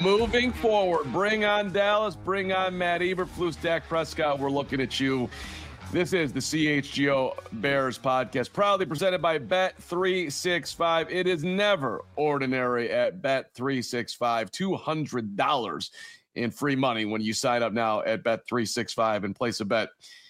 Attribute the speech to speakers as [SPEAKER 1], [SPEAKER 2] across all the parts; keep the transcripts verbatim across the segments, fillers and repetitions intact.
[SPEAKER 1] Moving forward, bring on Dallas, bring on Matt Eberflus, Dak Prescott. We're looking at you. This is the C H G O Bears podcast, proudly presented by Bet three sixty-five. It is never ordinary at Bet three sixty-five. two hundred dollars in free money when you sign up now at Bet three sixty-five and place a bet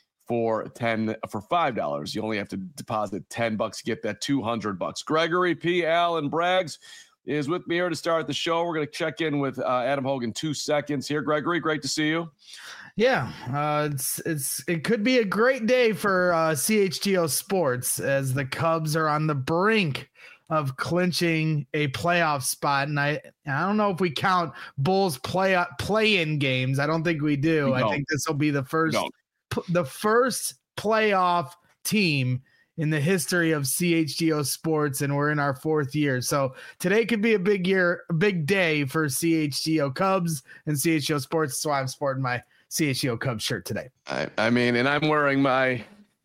[SPEAKER 1] for ten for five dollars. You only have to deposit ten bucks to get that two hundred bucks. Gregory P. Allen Braggs is with me here to start the show. We're going to check in with uh, Adam Hogue in two seconds here. Gregory, great to see you.
[SPEAKER 2] Yeah, uh, it's it's it could be a great day for uh, C H G O Sports as the Cubs are on the brink of clinching a playoff spot, and I I don't know if we count Bulls play play-in games. I don't think we do.
[SPEAKER 1] We
[SPEAKER 2] I think this will be the first p- the first playoff team in the history of C H G O Sports, and we're in our fourth year. So today could be a big year, a big day for C H G O Cubs and C H G O Sports. So I'm sporting my C H G O Cubs shirt today.
[SPEAKER 1] I, I mean, and I'm wearing my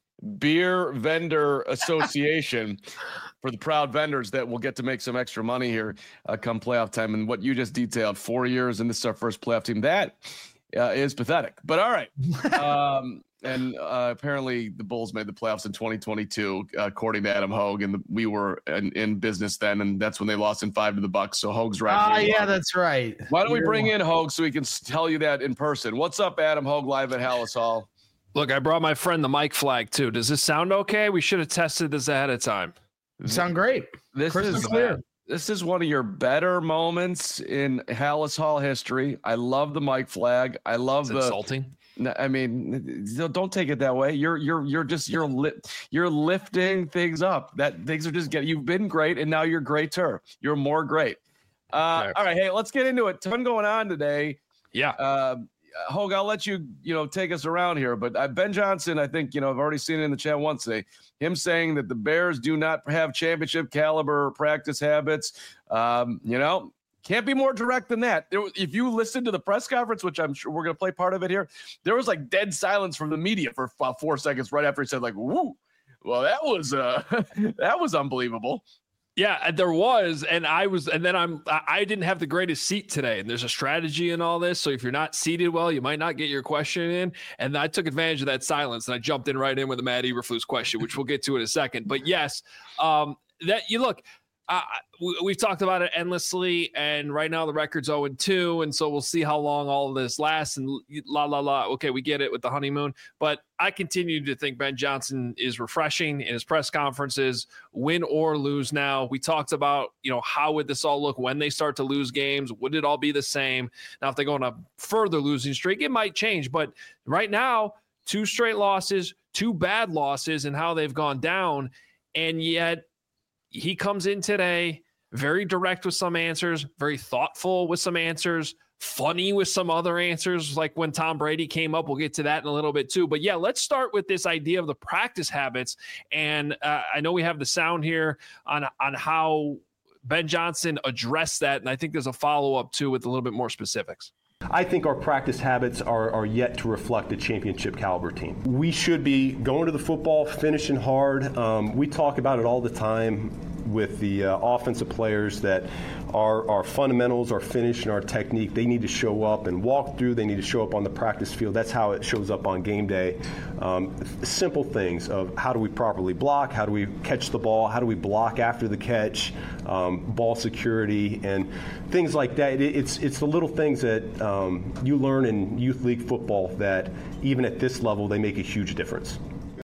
[SPEAKER 1] Beer Vendor Association for the proud vendors that will get to make some extra money here uh, come playoff time. And what you just detailed, four years, and this is our first playoff team. That uh, is pathetic. But all right. Um, and uh, apparently the Bulls made the playoffs in twenty twenty-two, uh, according to Adam Hogue, and the, we were in, in business then, and that's when they lost in five to the Bucks. So Hogue's right.
[SPEAKER 2] Ah, uh, yeah, that's right.
[SPEAKER 1] Why don't
[SPEAKER 2] You're
[SPEAKER 1] we bring
[SPEAKER 2] one.
[SPEAKER 1] in Hogue so he can tell you that in person? What's up, Adam Hogue, live at Hallis Hall?
[SPEAKER 3] Look, I brought my friend the mic flag too. Does this sound okay? We should have tested this ahead of time.
[SPEAKER 2] You sound great.
[SPEAKER 1] This
[SPEAKER 2] Crystal
[SPEAKER 1] is
[SPEAKER 2] clear.
[SPEAKER 1] This is one of your better moments in Hallis Hall history. I love the mic flag. I love
[SPEAKER 3] It's
[SPEAKER 1] the
[SPEAKER 3] insulting.
[SPEAKER 1] I mean, don't take it that way. You're you're you're just you're li- you're lifting things up. That things are just getting. You've been great, and now you're greater. You're more great. Uh,
[SPEAKER 3] Okay.
[SPEAKER 1] All right, hey, let's get into it. Ton going on today.
[SPEAKER 3] Yeah.
[SPEAKER 1] Uh, Hogue, I'll let you you know take us around here. But uh, Ben Johnson, I think you know I've already seen it in the chat once today. Him saying that the Bears do not have championship caliber practice habits. Um, you know. Can't be more direct than that. There, if you listen to the press conference, which I'm sure we're going to play part of it here, there was like dead silence from the media for uh, four seconds right after he said like, "Woo, well, that was uh, that was unbelievable."
[SPEAKER 3] Yeah, there was, and I was, and then I'm, I didn't have the greatest seat today, and there's a strategy in all this. So if you're not seated well, you might not get your question in. And I took advantage of that silence, and I jumped in right in with the Matt Eberflus question, which we'll get to in a second. But yes, um, that you look. Uh, we, we've talked about it endlessly, and right now the record's oh and two, and so we'll see how long all of this lasts, and la, la, la. Okay, we get it with the honeymoon, but I continue to think Ben Johnson is refreshing in his press conferences, win or lose now. We talked about, you know, how would this all look when they start to lose games? Would it all be the same? Now, if they go on a further losing streak, it might change, but right now, two straight losses, two bad losses, and how they've gone down, and yet he comes in today very direct with some answers, very thoughtful with some answers, funny with some other answers, like when Tom Brady came up. We'll get to that in a little bit too. But yeah, let's start with this idea of the practice habits. And uh, I know we have the sound here on, on how Ben Johnson addressed that. And I think there's a follow-up too with a little bit more specifics.
[SPEAKER 4] I think our practice habits are, are yet to reflect a championship caliber team. We should be going to the football, finishing hard. Um, we talk about it all the time with the uh, offensive players that our, our fundamentals, our finish, and our technique, they need to show up and walk through. They need to show up on the practice field. That's how it shows up on game day. Um, simple things of how do we properly block, how do we catch the ball, how do we block after the catch, um, ball security, and things like that. It, it's, it's the little things that um, you learn in youth league football that even at this level, they make a huge difference.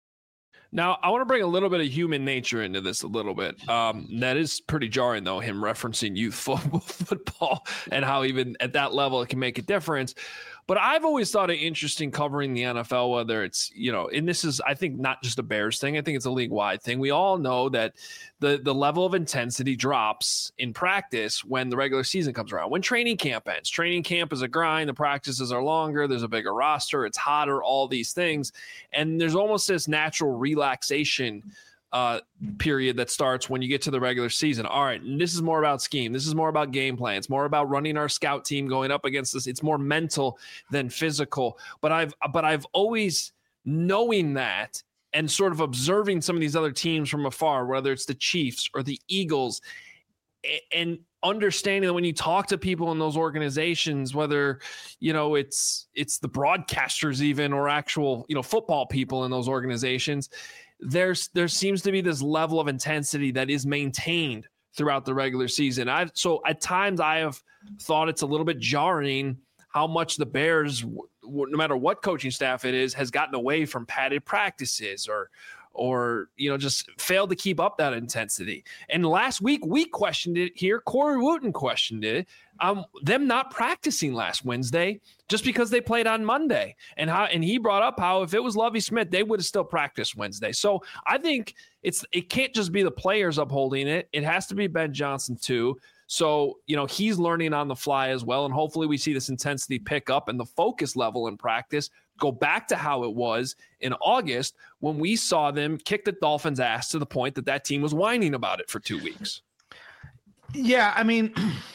[SPEAKER 3] Now, I want to bring a little bit of human nature into this a little bit. Um, that is pretty jarring, though, him referencing youth football, football and how even at that level it can make a difference. But I've always thought it interesting covering the N F L, whether it's, you know, and this is, I think, not just a Bears thing. I think it's a league-wide thing. We all know that the, the level of intensity drops in practice when the regular season comes around, when training camp ends. Training camp is a grind. The practices are longer. There's a bigger roster. It's hotter, all these things. And there's almost this natural relaxation uh, period that starts when you get to the regular season. All right, and this is more about scheme. This is more about game plan. It's more about running our scout team going up against this. It's more mental than physical. But I've but I've always knowing that and sort of observing some of these other teams from afar, whether it's the Chiefs or the Eagles, and understanding that when you talk to people in those organizations, whether, you know, it's, it's the broadcasters even, or actual, you know, football people in those organizations, there's, there seems to be this level of intensity that is maintained throughout the regular season. I so at times I have thought it's a little bit jarring how much the Bears, w- no matter what coaching staff it is, has gotten away from padded practices or, or, you know, just failed to keep up that intensity. And last week we questioned it here. Corey Wooten questioned it. Um, them not practicing last Wednesday just because they played on Monday. And how, and he brought up how if it was Lovie Smith, they would have still practiced Wednesday. So I think it's, it can't just be the players upholding it. It has to be Ben Johnson too. So, you know, he's learning on the fly as well. And hopefully we see this intensity pick up and the focus level in practice go back to how it was in August when we saw them kick the Dolphins' ass to the point that that team was whining about it for two weeks.
[SPEAKER 2] Yeah, I mean,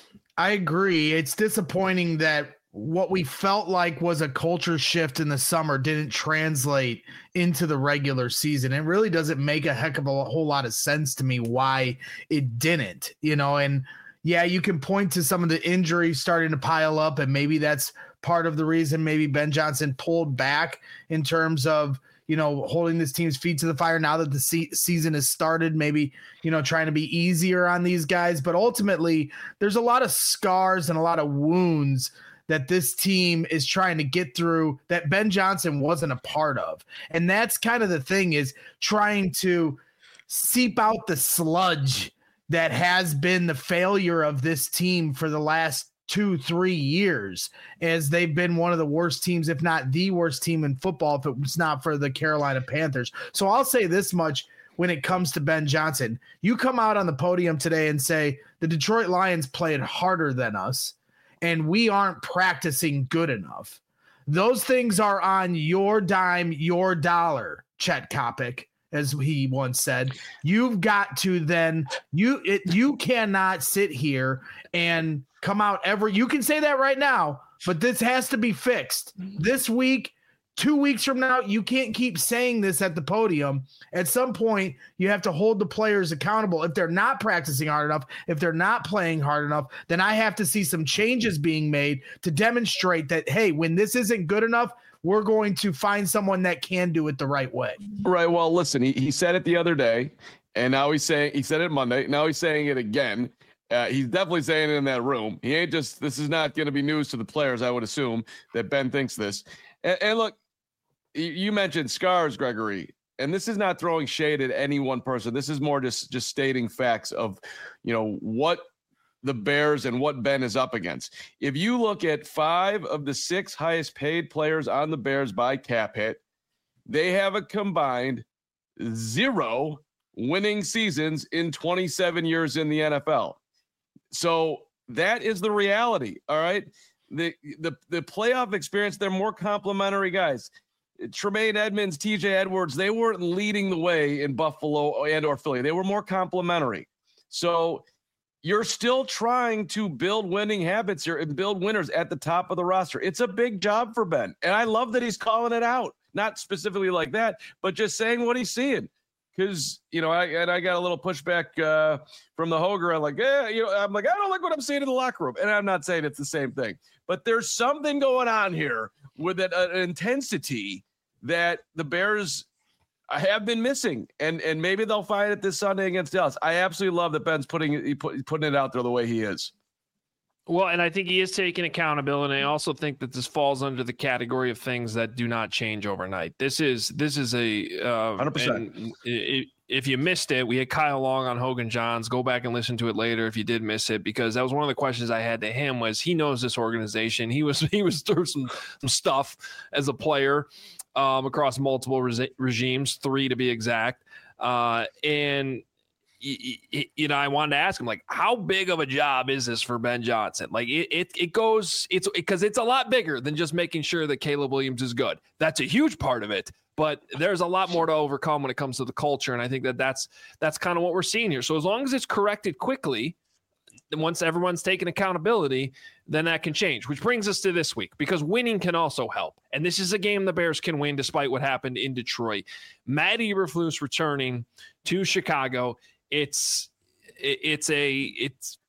[SPEAKER 2] I agree. It's disappointing that what we felt like was a culture shift in the summer didn't translate into the regular season. It really doesn't make a heck of a whole lot of sense to me why it didn't, you know, and yeah, you can point to some of the injuries starting to pile up, and maybe that's part of the reason maybe Ben Johnson pulled back in terms of, you know, holding this team's feet to the fire now that the se- season has started, maybe, you know, trying to be easier on these guys. But ultimately, there's a lot of scars and a lot of wounds that this team is trying to get through that Ben Johnson wasn't a part of. And that's kind of the thing, is trying to seep out the sludge that has been the failure of this team for the last two, three years, as they've been one of the worst teams, if not the worst team in football, if it was not for the Carolina Panthers. So I'll say this much when it comes to Ben Johnson. You come out on the podium today and say the Detroit Lions played harder than us and we aren't practicing good enough. Those things are on your dime, your dollar, Chet Kopic, as he once said. You've got to then you it, you cannot sit here and come out every you can say that right now, but this has to be fixed this week. Two weeks from now, you can't keep saying this at the podium. At some point, you have to hold the players accountable. If they're not practicing hard enough, if they're not playing hard enough, then I have to see some changes being made to demonstrate that, hey, when this isn't good enough, we're going to find someone that can do it the right way.
[SPEAKER 1] Right. Well, listen, he, he said it the other day, and now he's saying he said it Monday. Now he's saying it again. Uh, he's definitely saying it in that room. He ain't just, this is not going to be news to the players, I would assume, that Ben thinks this. And, and look, you mentioned scars, Gregory, and this is not throwing shade at any one person. This is more just, just stating facts of, you know, what the Bears and what Ben is up against. If you look at five of the six highest paid players on the Bears by cap hit, they have a combined zero winning seasons in twenty-seven years in the N F L. So that is the reality. All right. The, the, the playoff experience, they're more complimentary guys. Tremaine Edmonds, T J Edwards, they weren't leading the way in Buffalo and or Philly. They were more complimentary. So you're still trying to build winning habits here and build winners at the top of the roster. It's a big job for Ben. And I love that he's calling it out, not specifically like that, but just saying what he's seeing. Because, you know, I and I got a little pushback uh, from the Hoger. I'm like, yeah, you know, I'm like, I don't like what I'm seeing in the locker room. And I'm not saying it's the same thing, but there's something going on here with an, an intensity that the Bears have been missing, and and maybe they'll find it this Sunday against Dallas. I absolutely love that Ben's putting he put, putting it out there the way he is.
[SPEAKER 3] Well, and I think he is taking accountability. And I also think that this falls under the category of things that do not change overnight. This is this is a uh, one hundred percent. It, if you missed it, we had Kyle Long on Hogan Johns. Go back and listen to it later if you did miss it, because that was one of the questions I had to him. Was he knows this organization? He was he was through some some stuff as a player um, across multiple re- regimes, three to be exact, uh, and. You know, I wanted to ask him, like, how big of a job is this for Ben Johnson? Like, it it, it goes, it's because it's a lot bigger than just making sure that Caleb Williams is good. That's a huge part of it, but there's a lot more to overcome when it comes to the culture, and I think that that's that's kind of what we're seeing here. So as long as it's corrected quickly, then once everyone's taken accountability, then that can change. Which brings us to this week, because winning can also help, and this is a game the Bears can win despite what happened in Detroit. Matt Eberflus returning to Chicago. It's it's a it's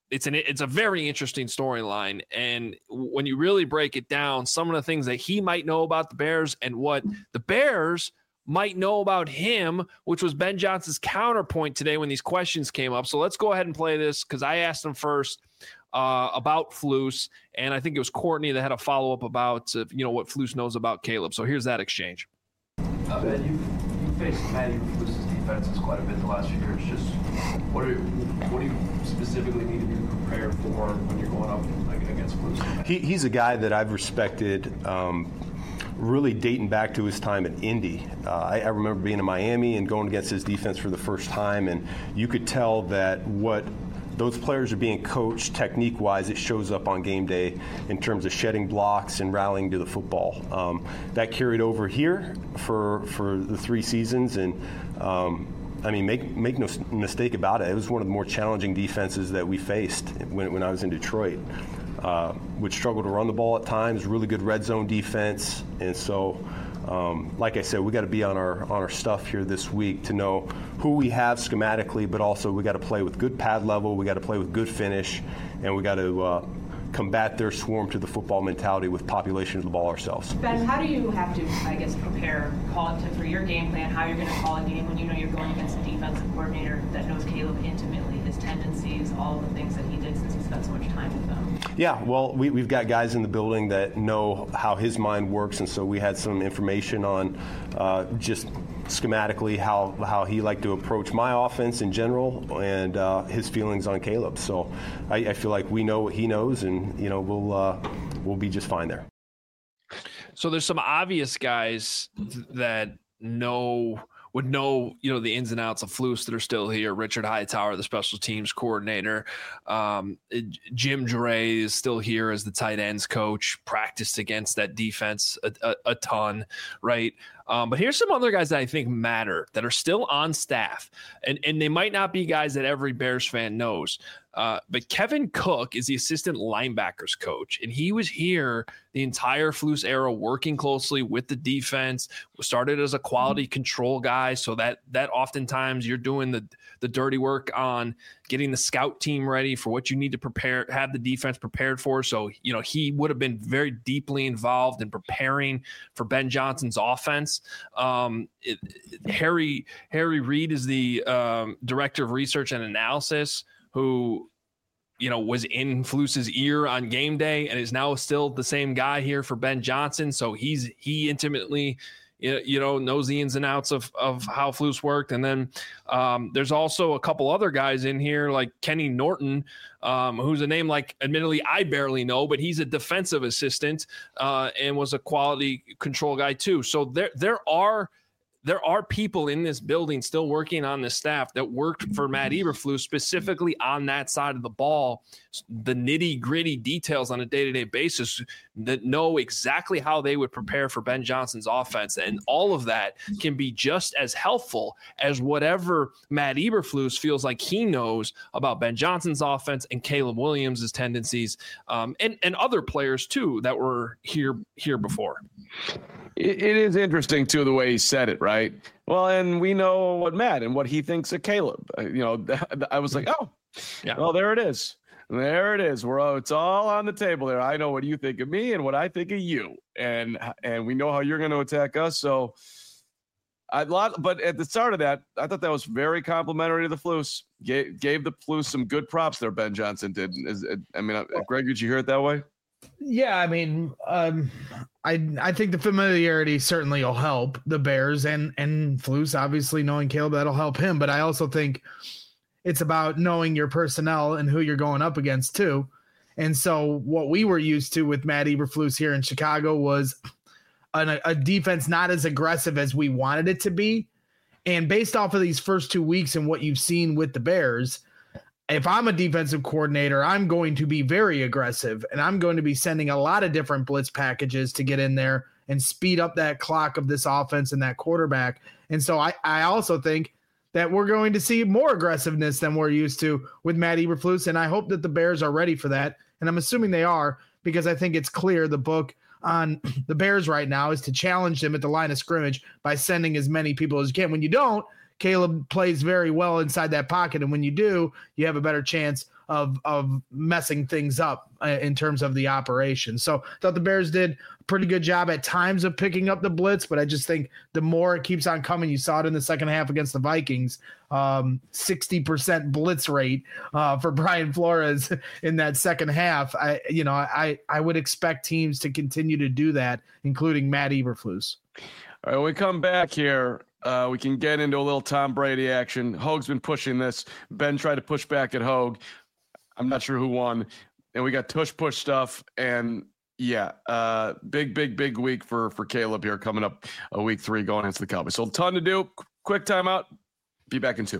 [SPEAKER 3] it's an it's a very interesting storyline. And when you really break it down, some of the things that he might know about the Bears and what the Bears might know about him, which was Ben Johnson's counterpoint today when these questions came up. So let's go ahead and play this because I asked him first uh, about Flus, and I think it was Courtney that had a follow-up about uh, you know what Flus knows about Caleb. So here's that exchange.
[SPEAKER 5] Uh, Ben, you you faced Matty Flus's defenses quite a bit the last few years. Just what are what do you specifically need to be prepared for when you're going up like, against Flus?
[SPEAKER 4] He, he's a guy that I've respected. Um, really dating back to his time at Indy. Uh, I, I remember being in Miami and going against his defense for the first time, and you could tell that what those players are being coached technique-wise, it shows up on game day in terms of shedding blocks and rallying to the football. Um, that carried over here for for the three seasons, and um, I mean, make make no mistake about it, it was one of the more challenging defenses that we faced when, when I was in Detroit. Uh, would struggle to run the ball at times, really good red zone defense, and so um, like I said, we got to be on our on our stuff here this week to know who we have schematically, but also we got to play with good pad level, we got to play with good finish, and we got to uh, combat their swarm to the football mentality with population of the ball ourselves.
[SPEAKER 6] Ben, how do you have to, I guess, prepare, call it to, for your game plan, how you're going to call a game when you know you're going against a defensive coordinator that knows Caleb intimately, his tendencies, all of the things that he did since he spent so much time with them?
[SPEAKER 4] Yeah, well, we, we've got guys in the building that know how his mind works, and so we had some information on uh, just schematically how, how he liked to approach my offense in general and uh, his feelings on Caleb. So I, I feel like we know what he knows, and you know we'll uh, we'll be just fine there.
[SPEAKER 3] So there's some obvious guys that know would know, you know, the ins and outs of Flus that are still here. Richard Hightower, the special teams coordinator. Um, Jim Dre is still here as the tight ends coach, practiced against that defense a, a, a ton, right? Um, but here's some other guys that I think matter that are still on staff, and, and they might not be guys that every Bears fan knows. Uh, but Kevin Cook is the assistant linebackers coach, and he was here the entire Flus era working closely with the defense. Started as a quality control guy, so that that oftentimes you're doing the the dirty work on getting the scout team ready for what you need to prepare, have the defense prepared for. So, you know, he would have been very deeply involved in preparing for Ben Johnson's offense. Um, it, it, Harry Harry Reid is the um, director of research and analysis, who, you know, was in Flus's ear on game day and is now still the same guy here for Ben Johnson. So he's he intimately, you know, knows the ins and outs of, of how Flus worked. And then um, there's also a couple other guys in here like Kenny Norton, um, who's a name like admittedly I barely know, but he's a defensive assistant uh, and was a quality control guy too. So there there are There are people in this building still working on this staff that worked for Matt Eberflus specifically on that side of the ball, the nitty gritty details on a day-to-day basis that know exactly how they would prepare for Ben Johnson's offense. And all of that can be just as helpful as whatever Matt Eberflus feels like he knows about Ben Johnson's offense and Caleb Williams' tendencies, um, and, and other players too that were here, here before.
[SPEAKER 1] It is interesting, too, the way he said it, right? Well, and we know what Matt and what he thinks of Caleb. You know, I was like, oh, yeah. Well, there it is. There it is. We're all, it's all on the table there. I know what you think of me and what I think of you. And and we know how you're going to attack us. So I lot, but at the start of that, I thought that was very complimentary to the Flus. Gave, gave the Flus some good props there, Ben Johnson did. Is, I mean, Greg, did you hear it that way?
[SPEAKER 2] Yeah, I mean, um, I I think the familiarity certainly will help the Bears, and and Flus obviously knowing Caleb, that'll help him. But I also think it's about knowing your personnel and who you're going up against too. And so what we were used to with Matt Eberflus here in Chicago was an, a defense not as aggressive as we wanted it to be. And based off of these first two weeks and what you've seen with the Bears, if I'm a defensive coordinator, I'm going to be very aggressive, and I'm going to be sending a lot of different blitz packages to get in there and speed up that clock of this offense and that quarterback. And so I, I also think that we're going to see more aggressiveness than we're used to with Matt Eberflus, and I hope that the Bears are ready for that. And I'm assuming they are, because I think it's clear the book on the Bears right now is to challenge them at the line of scrimmage by sending as many people as you can. When you don't, Caleb plays very well inside that pocket, and when you do, you have a better chance of of messing things up uh, in terms of the operation. So I thought the Bears did a pretty good job at times of picking up the blitz, but I just think the more it keeps on coming, you saw it in the second half against the Vikings, um, sixty percent blitz rate uh, for Brian Flores in that second half. I, you know, I, I would expect teams to continue to do that, including Matt Eberflus.
[SPEAKER 1] All right, when we come back here, uh, we can get into a little Tom Brady action. Hoag's been pushing this. Ben tried to push back at Hoag. I'm not sure who won. And we got tush push stuff. And yeah, uh, big, big, big week for, for Caleb here coming up a week three going into the Cowboys. So a ton to do. Quick timeout. Be back in two.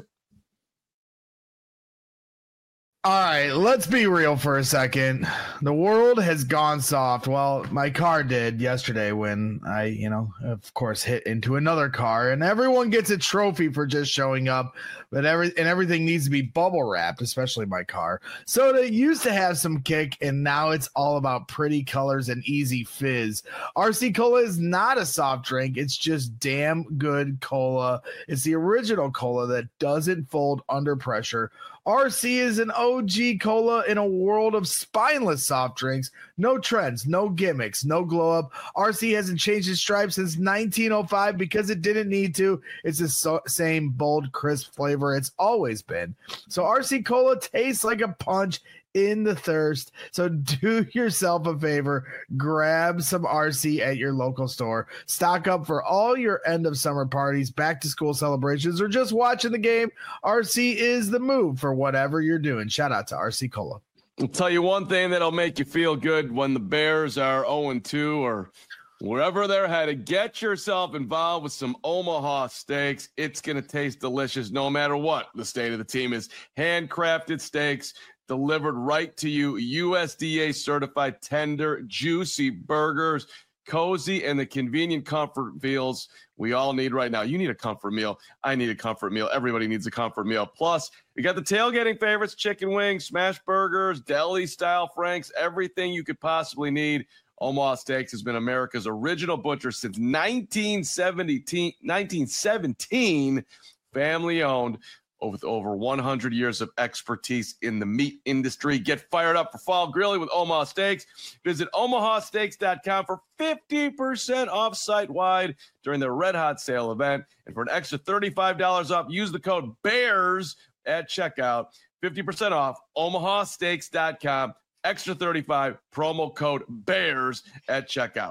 [SPEAKER 2] All right, let's be real for a second. The world has gone soft. Well, my car did yesterday when I, you know, of course, hit into another car, and everyone gets a trophy for just showing up, but every and everything needs to be bubble wrapped, especially my car. Soda used to have some kick, and now it's all about pretty colors and easy fizz. R C Cola is not a soft drink. It's just damn good cola. It's the original cola that doesn't fold under pressure. R C is an O G cola in a world of spineless soft drinks. No trends, no gimmicks, no glow up. R C hasn't changed its stripe since nineteen oh five because it didn't need to. It's the so- same bold, crisp flavor it's always been. So R C Cola tastes like a punch in the thirst. So do yourself a favor, grab some R C at your local store. Stock up for all your end of summer parties, back to school celebrations, or just watching the game. R C is the move for whatever you're doing. Shout out to R C Cola.
[SPEAKER 1] I'll tell you one thing that'll make you feel good when the Bears are oh and two or wherever they're headed. Get yourself involved with some Omaha steaks. It's going to taste delicious no matter what the state of the team is. Handcrafted steaks delivered right to you. U S D A certified tender, juicy burgers, cozy, and the convenient comfort meals we all need right now. You need a comfort meal. I need a comfort meal. Everybody needs a comfort meal. Plus, we got the tailgating favorites, chicken wings, smash burgers, deli-style franks, everything you could possibly need. Omaha Steaks has been America's original butcher since nineteen seventeen, nineteen seventeen, family-owned. With over one hundred years of expertise in the meat industry. Get fired up for fall grilling with Omaha Steaks. Visit omaha steaks dot com for fifty percent off site-wide during the Red Hot Sale event. And for an extra thirty-five dollars off, use the code BEARS at checkout. fifty percent off, omaha steaks dot com. Extra thirty-five, promo code BEARS at checkout.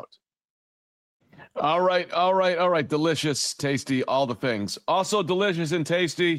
[SPEAKER 1] All right, all right, all right. Delicious, tasty, all the things. Also delicious and tasty.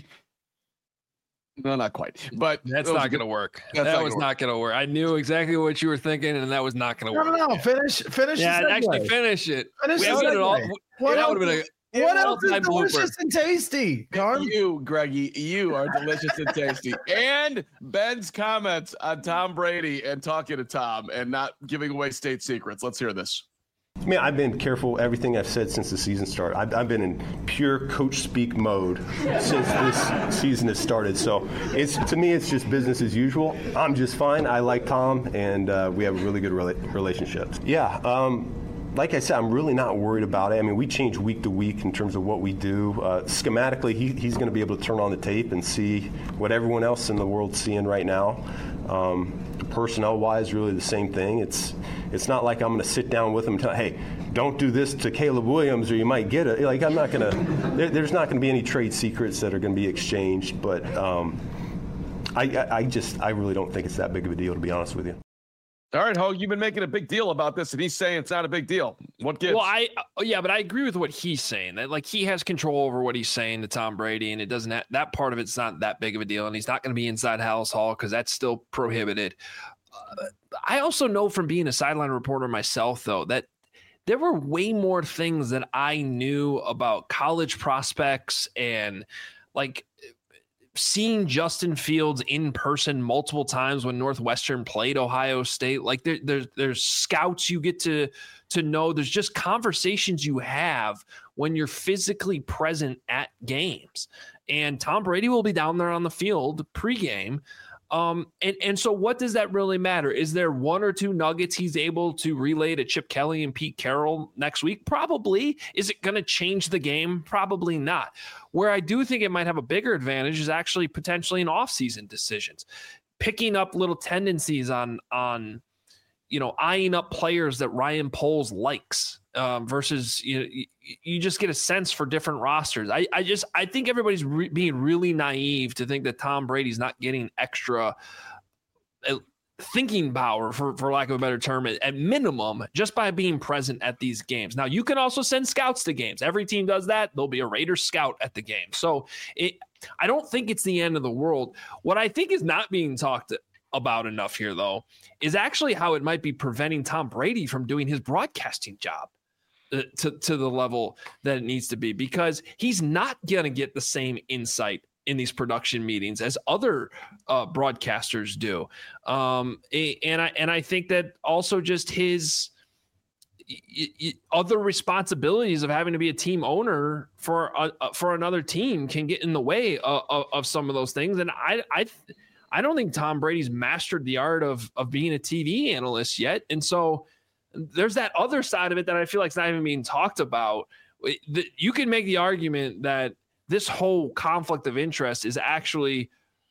[SPEAKER 1] No, not quite. But
[SPEAKER 3] that's not going to work. That was not going to work. I knew exactly what you were thinking, and that was not going to work.
[SPEAKER 2] No, no, no. Finish, finish.
[SPEAKER 3] Yeah, actually finish it.
[SPEAKER 2] Finish
[SPEAKER 3] we haven't it all.
[SPEAKER 2] What
[SPEAKER 3] that would have been a
[SPEAKER 2] What else is delicious blooper. and tasty? Carm?
[SPEAKER 1] You, Greggy, you are delicious and tasty. And Ben's comments on Tom Brady and talking to Tom and not giving away state secrets. Let's hear this.
[SPEAKER 4] I mean, I've been careful everything I've said since the season started. I've, I've been in pure coach speak mode since this season has started. So it's to me, it's just business as usual. I'm just fine. I like Tom, and uh, we have a really good rela- relationship. Yeah. Um, Like I said, I'm really not worried about it. I mean, we change week to week in terms of what we do. Uh, schematically, he, he's going to be able to turn on the tape and see what everyone else in the world's seeing right now. Um, personnel-wise, really the same thing. It's it's not like I'm going to sit down with him and tell, hey, don't do this to Caleb Williams or you might get it. Like, I'm not going to there, – there's not going to be any trade secrets that are going to be exchanged. But um, I, I, I just – I really don't think it's that big of a deal, to be honest with you.
[SPEAKER 1] All right, Hoag, you've been making a big deal about this, and he's saying it's not a big deal. What gives?
[SPEAKER 3] Well, I yeah, but I agree with what he's saying. That like he has control over what he's saying to Tom Brady, and it doesn't have, that part of it's not that big of a deal, and he's not going to be inside Hallis Hall because that's still prohibited. Uh, I also know from being a sideline reporter myself, though, that there were way more things that I knew about college prospects and like seeing Justin Fields in person multiple times when Northwestern played Ohio State. Like there, there's there's scouts you get to to know. There's just conversations you have when you're physically present at games. And Tom Brady will be down there on the field pregame. Um, and, and so what does that really matter? Is there one or two nuggets he's able to relay to Chip Kelly and Pete Carroll next week? Probably. Is it going to change the game? Probably not. Where I do think it might have a bigger advantage is actually potentially in off-season decisions. picking up little tendencies on on you know eyeing up players that Ryan Poles likes um, versus you know, you, you just get a sense for different rosters. I, I just I think everybody's re- being really naive to think that Tom Brady's not getting extra uh, thinking power, for, for lack of a better term, at, at minimum, just by being present at these games. Now, you can also send scouts to games. Every team does that. There'll be a Raiders scout at the game. So it, I don't think it's the end of the world. What I think is not being talked about enough here, though, is actually how it might be preventing Tom Brady from doing his broadcasting job uh, to, to the level that it needs to be, because he's not going to get the same insight in these production meetings as other uh, broadcasters do. Um, and I, and I think that also just his y- y- other responsibilities of having to be a team owner for, a, for another team can get in the way of, of, of some of those things. And I, I, I don't think Tom Brady's mastered the art of, of being a T V analyst yet. And so there's that other side of it that I feel like it's not even being talked about. You can make the argument that this whole conflict of interest is actually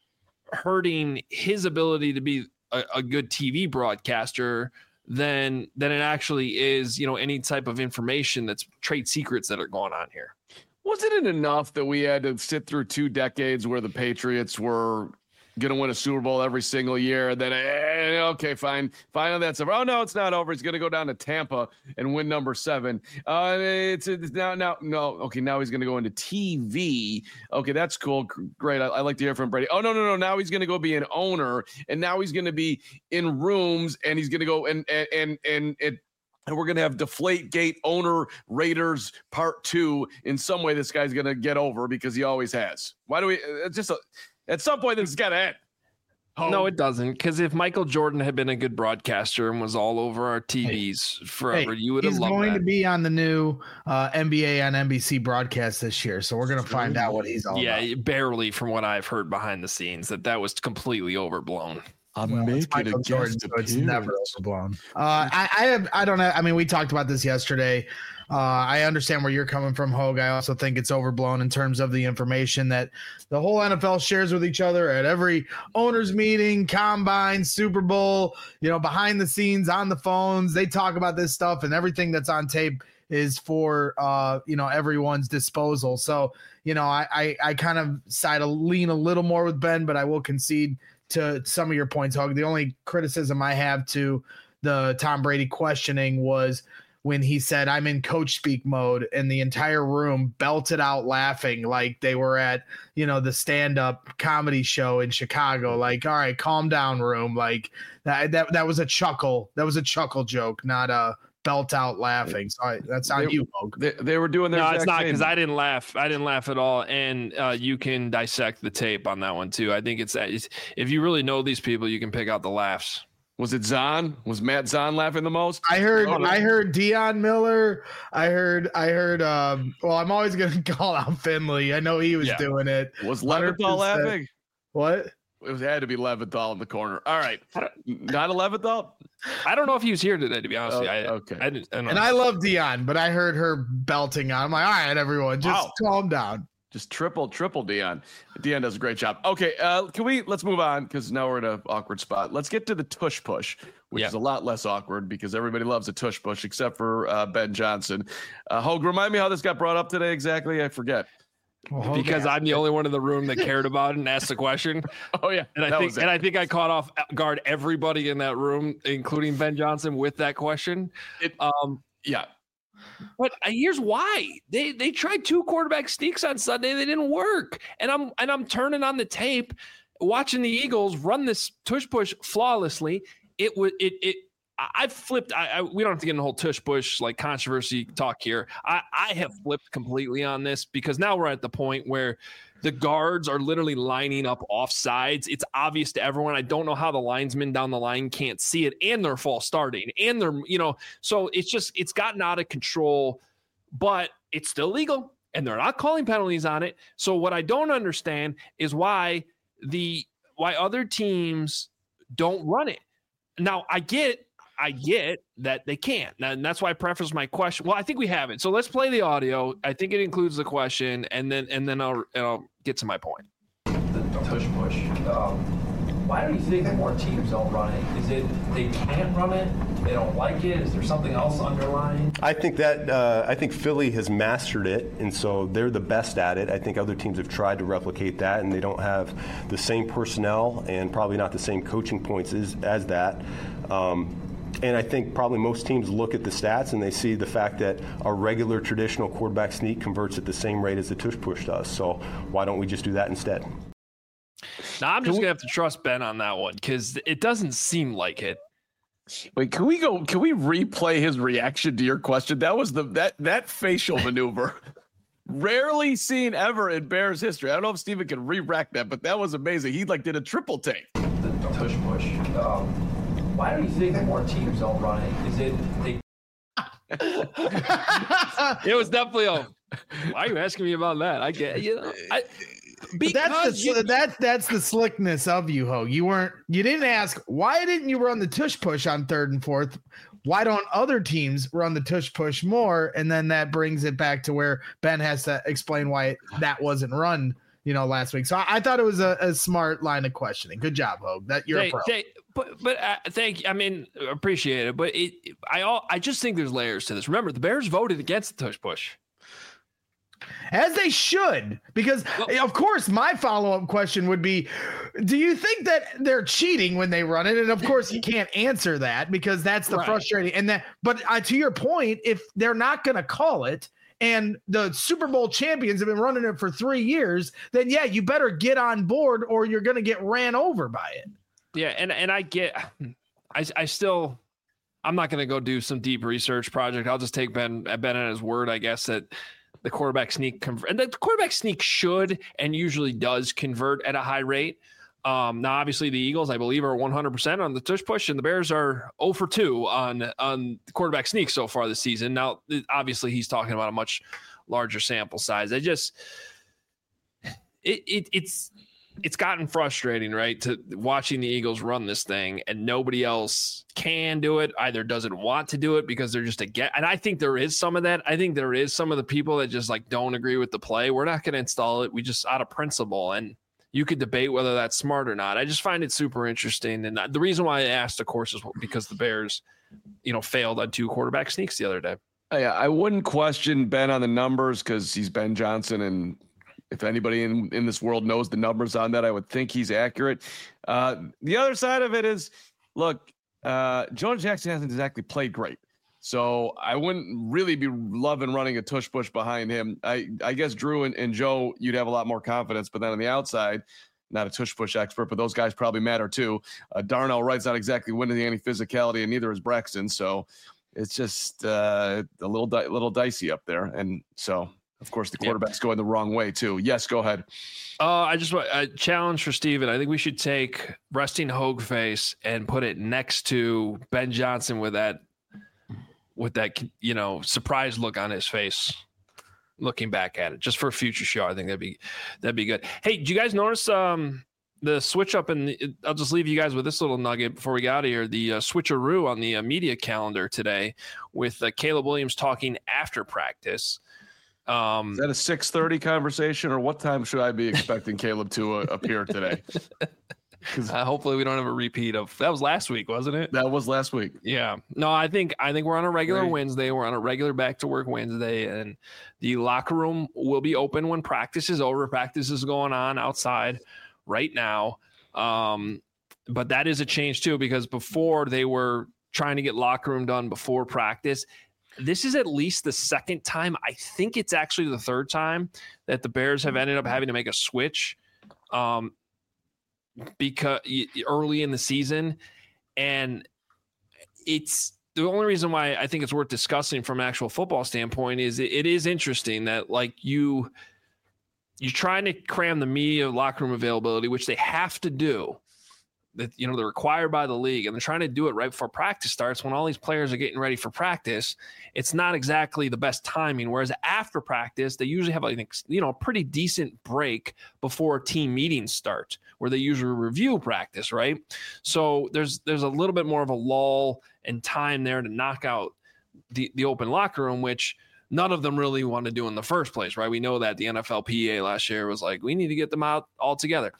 [SPEAKER 3] hurting his ability to be a, a good T V broadcaster than than it actually is, you know, any type of information that's trade secrets that are going on here.
[SPEAKER 1] Wasn't it enough that we had to sit through two decades where the Patriots were going to win a Super Bowl every single year? Then, eh, okay, fine. Finally, that's over. Oh, no, it's not over. He's going to go down to Tampa and win number seven. Uh, it's, it's now, now, no. Okay, now he's going to go into T V. Okay, that's cool. Great. I, I like to hear from Brady. Oh, no, no, no. Now he's going to go be an owner, and now he's going to be in rooms, and he's going to go and, and, and, and it, and we're going to have Deflategate owner Raiders part two. In some way, this guy's going to get over because he always has. Why do we it's just a, at some point, this has got to end.
[SPEAKER 3] Oh. No, it doesn't. Because if Michael Jordan had been a good broadcaster and was all over our T Vs hey, forever, hey, you would have loved that.
[SPEAKER 2] He's going to be on the new uh, N B A on N B C broadcast this year, so we're going to find out what he's all
[SPEAKER 3] yeah,
[SPEAKER 2] about.
[SPEAKER 3] Yeah, barely from what I've heard behind the scenes, that that was completely overblown.
[SPEAKER 1] I'm well, making Michael Jordan, so
[SPEAKER 2] it's never overblown. Uh, I, I have, I don't know. I mean, we talked about this yesterday. Uh, I understand where you're coming from, Hogue. I also think it's overblown in terms of the information that the whole N F L shares with each other at every owners meeting, combine, Super Bowl, you know, behind the scenes, on the phones. They talk about this stuff, and everything that's on tape is for, uh, you know, everyone's disposal. So, you know, I, I, I kind of side a lean a little more with Ben, but I will concede to some of your points, Hogue. The only criticism I have to the Tom Brady questioning was when he said, I'm in coach speak mode, and the entire room belted out laughing like they were at, you know, the stand-up comedy show in Chicago. Like, all right, calm down, room. Like that, that, that was a chuckle. That was a chuckle joke, not a belt out laughing. So I, that's on
[SPEAKER 1] they,
[SPEAKER 2] you, Hogue.
[SPEAKER 1] They, they were doing their
[SPEAKER 3] No, it's not, because I didn't laugh. I didn't laugh at all. And uh, you can dissect the tape on that one too. I think it's, it's if you really know these people, you can pick out the laughs.
[SPEAKER 1] Was it Zahn? Was Matt Zahn laughing the most?
[SPEAKER 2] I heard, oh, no. I heard Dion Miller. I heard, I heard, um, well, I'm always going to call out Finley. I know he was yeah. doing it.
[SPEAKER 1] Was Leventhal laughing?
[SPEAKER 2] What?
[SPEAKER 1] It was, had to be Leventhal in the corner. All right. Not a Leventhal?
[SPEAKER 3] I don't know if he was here today, to be honest.
[SPEAKER 1] Oh,
[SPEAKER 3] with you. I,
[SPEAKER 1] okay.
[SPEAKER 3] I didn't, I
[SPEAKER 2] and I love Dion, but I heard her belting on. I'm like, all right, everyone, just wow. calm down.
[SPEAKER 1] Just triple, triple Dion. Dion does a great job. Okay, uh, can we, let's move on, because now we're in an awkward spot. Let's get to the tush push, which yeah. is a lot less awkward because everybody loves a tush push except for uh, Ben Johnson. Uh, Hogue, remind me how this got brought up today exactly? I forget.
[SPEAKER 3] Well, because I'm the only one in the room that cared about it and asked the question.
[SPEAKER 1] Oh yeah,
[SPEAKER 3] and I think and I think I caught off guard everybody in that room, including Ben Johnson, with that question.
[SPEAKER 1] It,
[SPEAKER 3] um,
[SPEAKER 1] yeah.
[SPEAKER 3] But here's why they they tried two quarterback sneaks on Sunday. They didn't work. And I'm and I'm turning on the tape, watching the Eagles run this tush push flawlessly. It was it it. I flipped. I, I we don't have to get in the whole tush push like controversy talk here. I I have flipped completely on this because now we're at the point where the guards are literally lining up off sides. It's obvious to everyone. I don't know how the linesmen down the line can't see it, and they're false starting, and they're, you know, so it's just, it's gotten out of control, but it's still legal, and they're not calling penalties on it. So what I don't understand is why the, why other teams don't run it. Now I get, I get that they can't. And that's why I preface my question. Well, I think we have it. So let's play the audio. I think it includes the question, and then and then I'll, and I'll get to my point.
[SPEAKER 5] The tush push. Um, Why do you think more teams don't run it? Is it they can't run it? They don't like it? Is there something else underlying?
[SPEAKER 4] I think that uh, I think Philly has mastered it, and so they're the best at it. I think other teams have tried to replicate that, and they don't have the same personnel and probably not the same coaching points as, as that. Um, And I think probably most teams look at the stats and they see the fact that a regular traditional quarterback sneak converts at the same rate as the tush push does. So why don't we just do that instead?
[SPEAKER 3] Now I'm just gonna have to trust Ben on that one because it doesn't seem like it.
[SPEAKER 1] Wait, can we go? Can we replay his reaction to your question? That was the that that facial maneuver. Rarely seen ever in Bears history. I don't know if Steven can re-rack that, but that was amazing. He like did a triple take.
[SPEAKER 5] The tush push. Um, Why do you think more teams don't run it? Is it they?
[SPEAKER 3] It was definitely a. Why are you asking me about that? I get you know. I,
[SPEAKER 2] because that's the you, that that's the slickness of you, Ho. You weren't. You didn't ask why didn't you run the tush push on third and fourth. Why don't other teams run the tush push more? And then that brings it back to where Ben has to explain why it, that wasn't run. You know, last week. So I, I thought it was a, a smart line of questioning. Good job, Hogue. That you're
[SPEAKER 3] they,
[SPEAKER 2] a pro.
[SPEAKER 3] They, but but uh, thank you. I mean, appreciate it. But it, I all I just think there's layers to this. Remember, the Bears voted against the tush push,
[SPEAKER 2] as they should, because well, of course my follow-up question would be, do you think that they're cheating when they run it? And of course you can't answer that because that's the right. frustrating. And that, but uh, to your point, if they're not going to call it. And the Super Bowl champions have been running it for three years, then yeah, you better get on board or you're going to get ran over by it.
[SPEAKER 3] Yeah. And, and I get, I, I still, I'm not going to go do some deep research project. I'll just take Ben, Ben at his word, I guess, that the quarterback sneak convert and the quarterback sneak should, and usually does convert at a high rate. Um, now, obviously, the Eagles, I believe, are one hundred percent on the tush push, and the Bears are zero for two on on the quarterback sneak so far this season. Now, obviously, he's talking about a much larger sample size. I just it, it it's it's gotten frustrating, right, to watching the Eagles run this thing, and nobody else can do it, either doesn't want to do it because they're just a get. And I think there is some of that. I think there is some of the people that just like don't agree with the play. We're not going to install it. We just out of principle and. You could debate whether that's smart or not. I just find it super interesting. And the reason why I asked, of course, is because the Bears, you know, failed on two quarterback sneaks the other day.
[SPEAKER 1] Yeah, I wouldn't question Ben on the numbers because he's Ben Johnson. And if anybody in, in this world knows the numbers on that, I would think he's accurate. Uh, the other side of it is, look, uh, Jonah Jackson hasn't exactly played great. So I wouldn't really be loving running a tush push behind him. I, I guess Drew and, and Joe, you'd have a lot more confidence. But then on the outside, not a tush push expert, but those guys probably matter too. Uh, Darnell Wright's not exactly winning any physicality, and neither is Braxton. So it's just uh, a little di- little dicey up there. And so, of course, the quarterback's yeah. going the wrong way too. Yes, go ahead.
[SPEAKER 3] Uh, I just want a challenge for Steven. I think we should take resting Hogue face and put it next to Ben Johnson with that. with that, you know, surprised look on his face, looking back at it, just for a future show. I think that'd be, that'd be good. Hey, did you guys notice um, the switch up? And I'll just leave you guys with this little nugget before we get out of here. The uh, switcheroo on the uh, media calendar today with uh, Caleb Williams talking after practice. Um,
[SPEAKER 1] Is that a six thirty conversation, or what time should I be expecting Caleb to uh, appear today?
[SPEAKER 3] Uh, hopefully we don't have a repeat of that was last week, wasn't it?
[SPEAKER 1] That was last week.
[SPEAKER 3] Yeah. No, I think I think we're on a regular
[SPEAKER 1] Great. Wednesday.
[SPEAKER 3] We're on a regular back to work Wednesday, and the locker room will be open when practice is over. Practice is going on outside right now. Um, but that is a change too, because before they were trying to get locker room done before practice. This is at least the second time. I think it's actually the third time that the Bears have ended up having to make a switch. Um, because early in the season, and it's the only reason why I think it's worth discussing from an actual football standpoint is it, it is interesting that like you you're trying to cram the media locker room availability, which they have to do, that you know they're required by the league, and they're trying to do it right before practice starts when all these players are getting ready for practice. It's not exactly the best timing. Whereas after practice, they usually have like you know a pretty decent break before team meetings start, where they usually review practice, right? So there's there's a little bit more of a lull and time there to knock out the the open locker room, which none of them really want to do in the first place, right? We know that the N F L P A last year was like, we need to get them out altogether.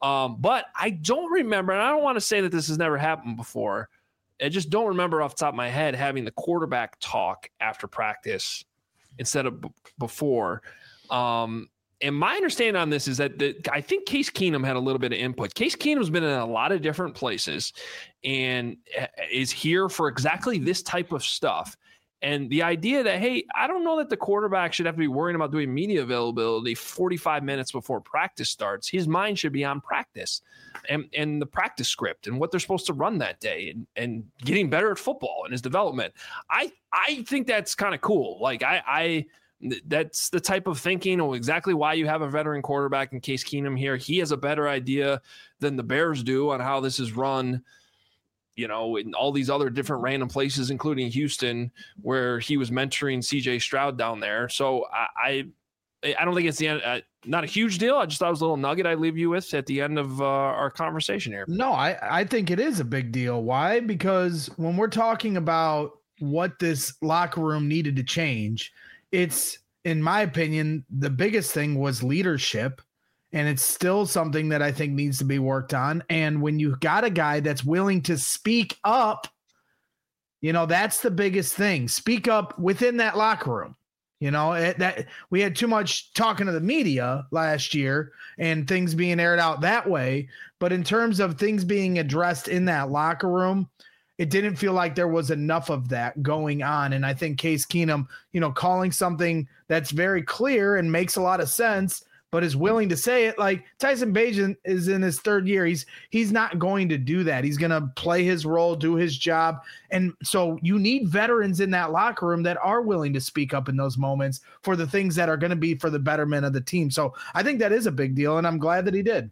[SPEAKER 3] Um, but I don't remember, and I don't want to say that this has never happened before. I just don't remember off the top of my head having the quarterback talk after practice instead of b- before. Um, and my understanding on this is that the, I think Case Keenum had a little bit of input. Case Keenum's been in a lot of different places and is here for exactly this type of stuff. And the idea that, hey, I don't know that the quarterback should have to be worrying about doing media availability forty-five minutes before practice starts. His mind should be on practice and, and the practice script and what they're supposed to run that day and, and getting better at football and his development. I, I think that's kind of cool. Like I, I, that's the type of thinking or exactly why you have a veteran quarterback in Case Keenum here. He has a better idea than the Bears do on how this is run, you know, in all these other different random places, including Houston, where he was mentoring C J Stroud down there. So I, I, I don't think it's the end, uh, not a huge deal. I just thought it was a little nugget I'd leave you with at the end of uh, our conversation here.
[SPEAKER 2] No, I, I think it is a big deal. Why? Because when we're talking about what this locker room needed to change, it's, in my opinion, the biggest thing was leadership. And it's still something that I think needs to be worked on. And when you got a guy that's willing to speak up, you know, that's the biggest thing. Speak up within that locker room. You know, it, that we had too much talking to the media last year and things being aired out that way. But in terms of things being addressed in that locker room, it didn't feel like there was enough of that going on. And I think Case Keenum, you know, calling something that's very clear and makes a lot of sense, but is willing to say it. Like Tyson Bagent is in his third year. He's he's not going to do that. He's going to play his role, do his job. And so you need veterans in that locker room that are willing to speak up in those moments for the things that are going to be for the betterment of the team. So I think that is a big deal, and I'm glad that he did.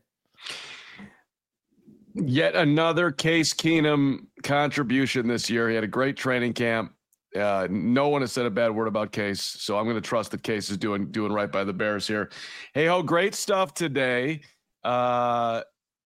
[SPEAKER 1] Yet another Case Keenum contribution this year. He had a great training camp. Uh, no one has said a bad word about Case, so I'm going to trust that Case is doing doing right by the Bears here. Hey, ho, great stuff today. Uh,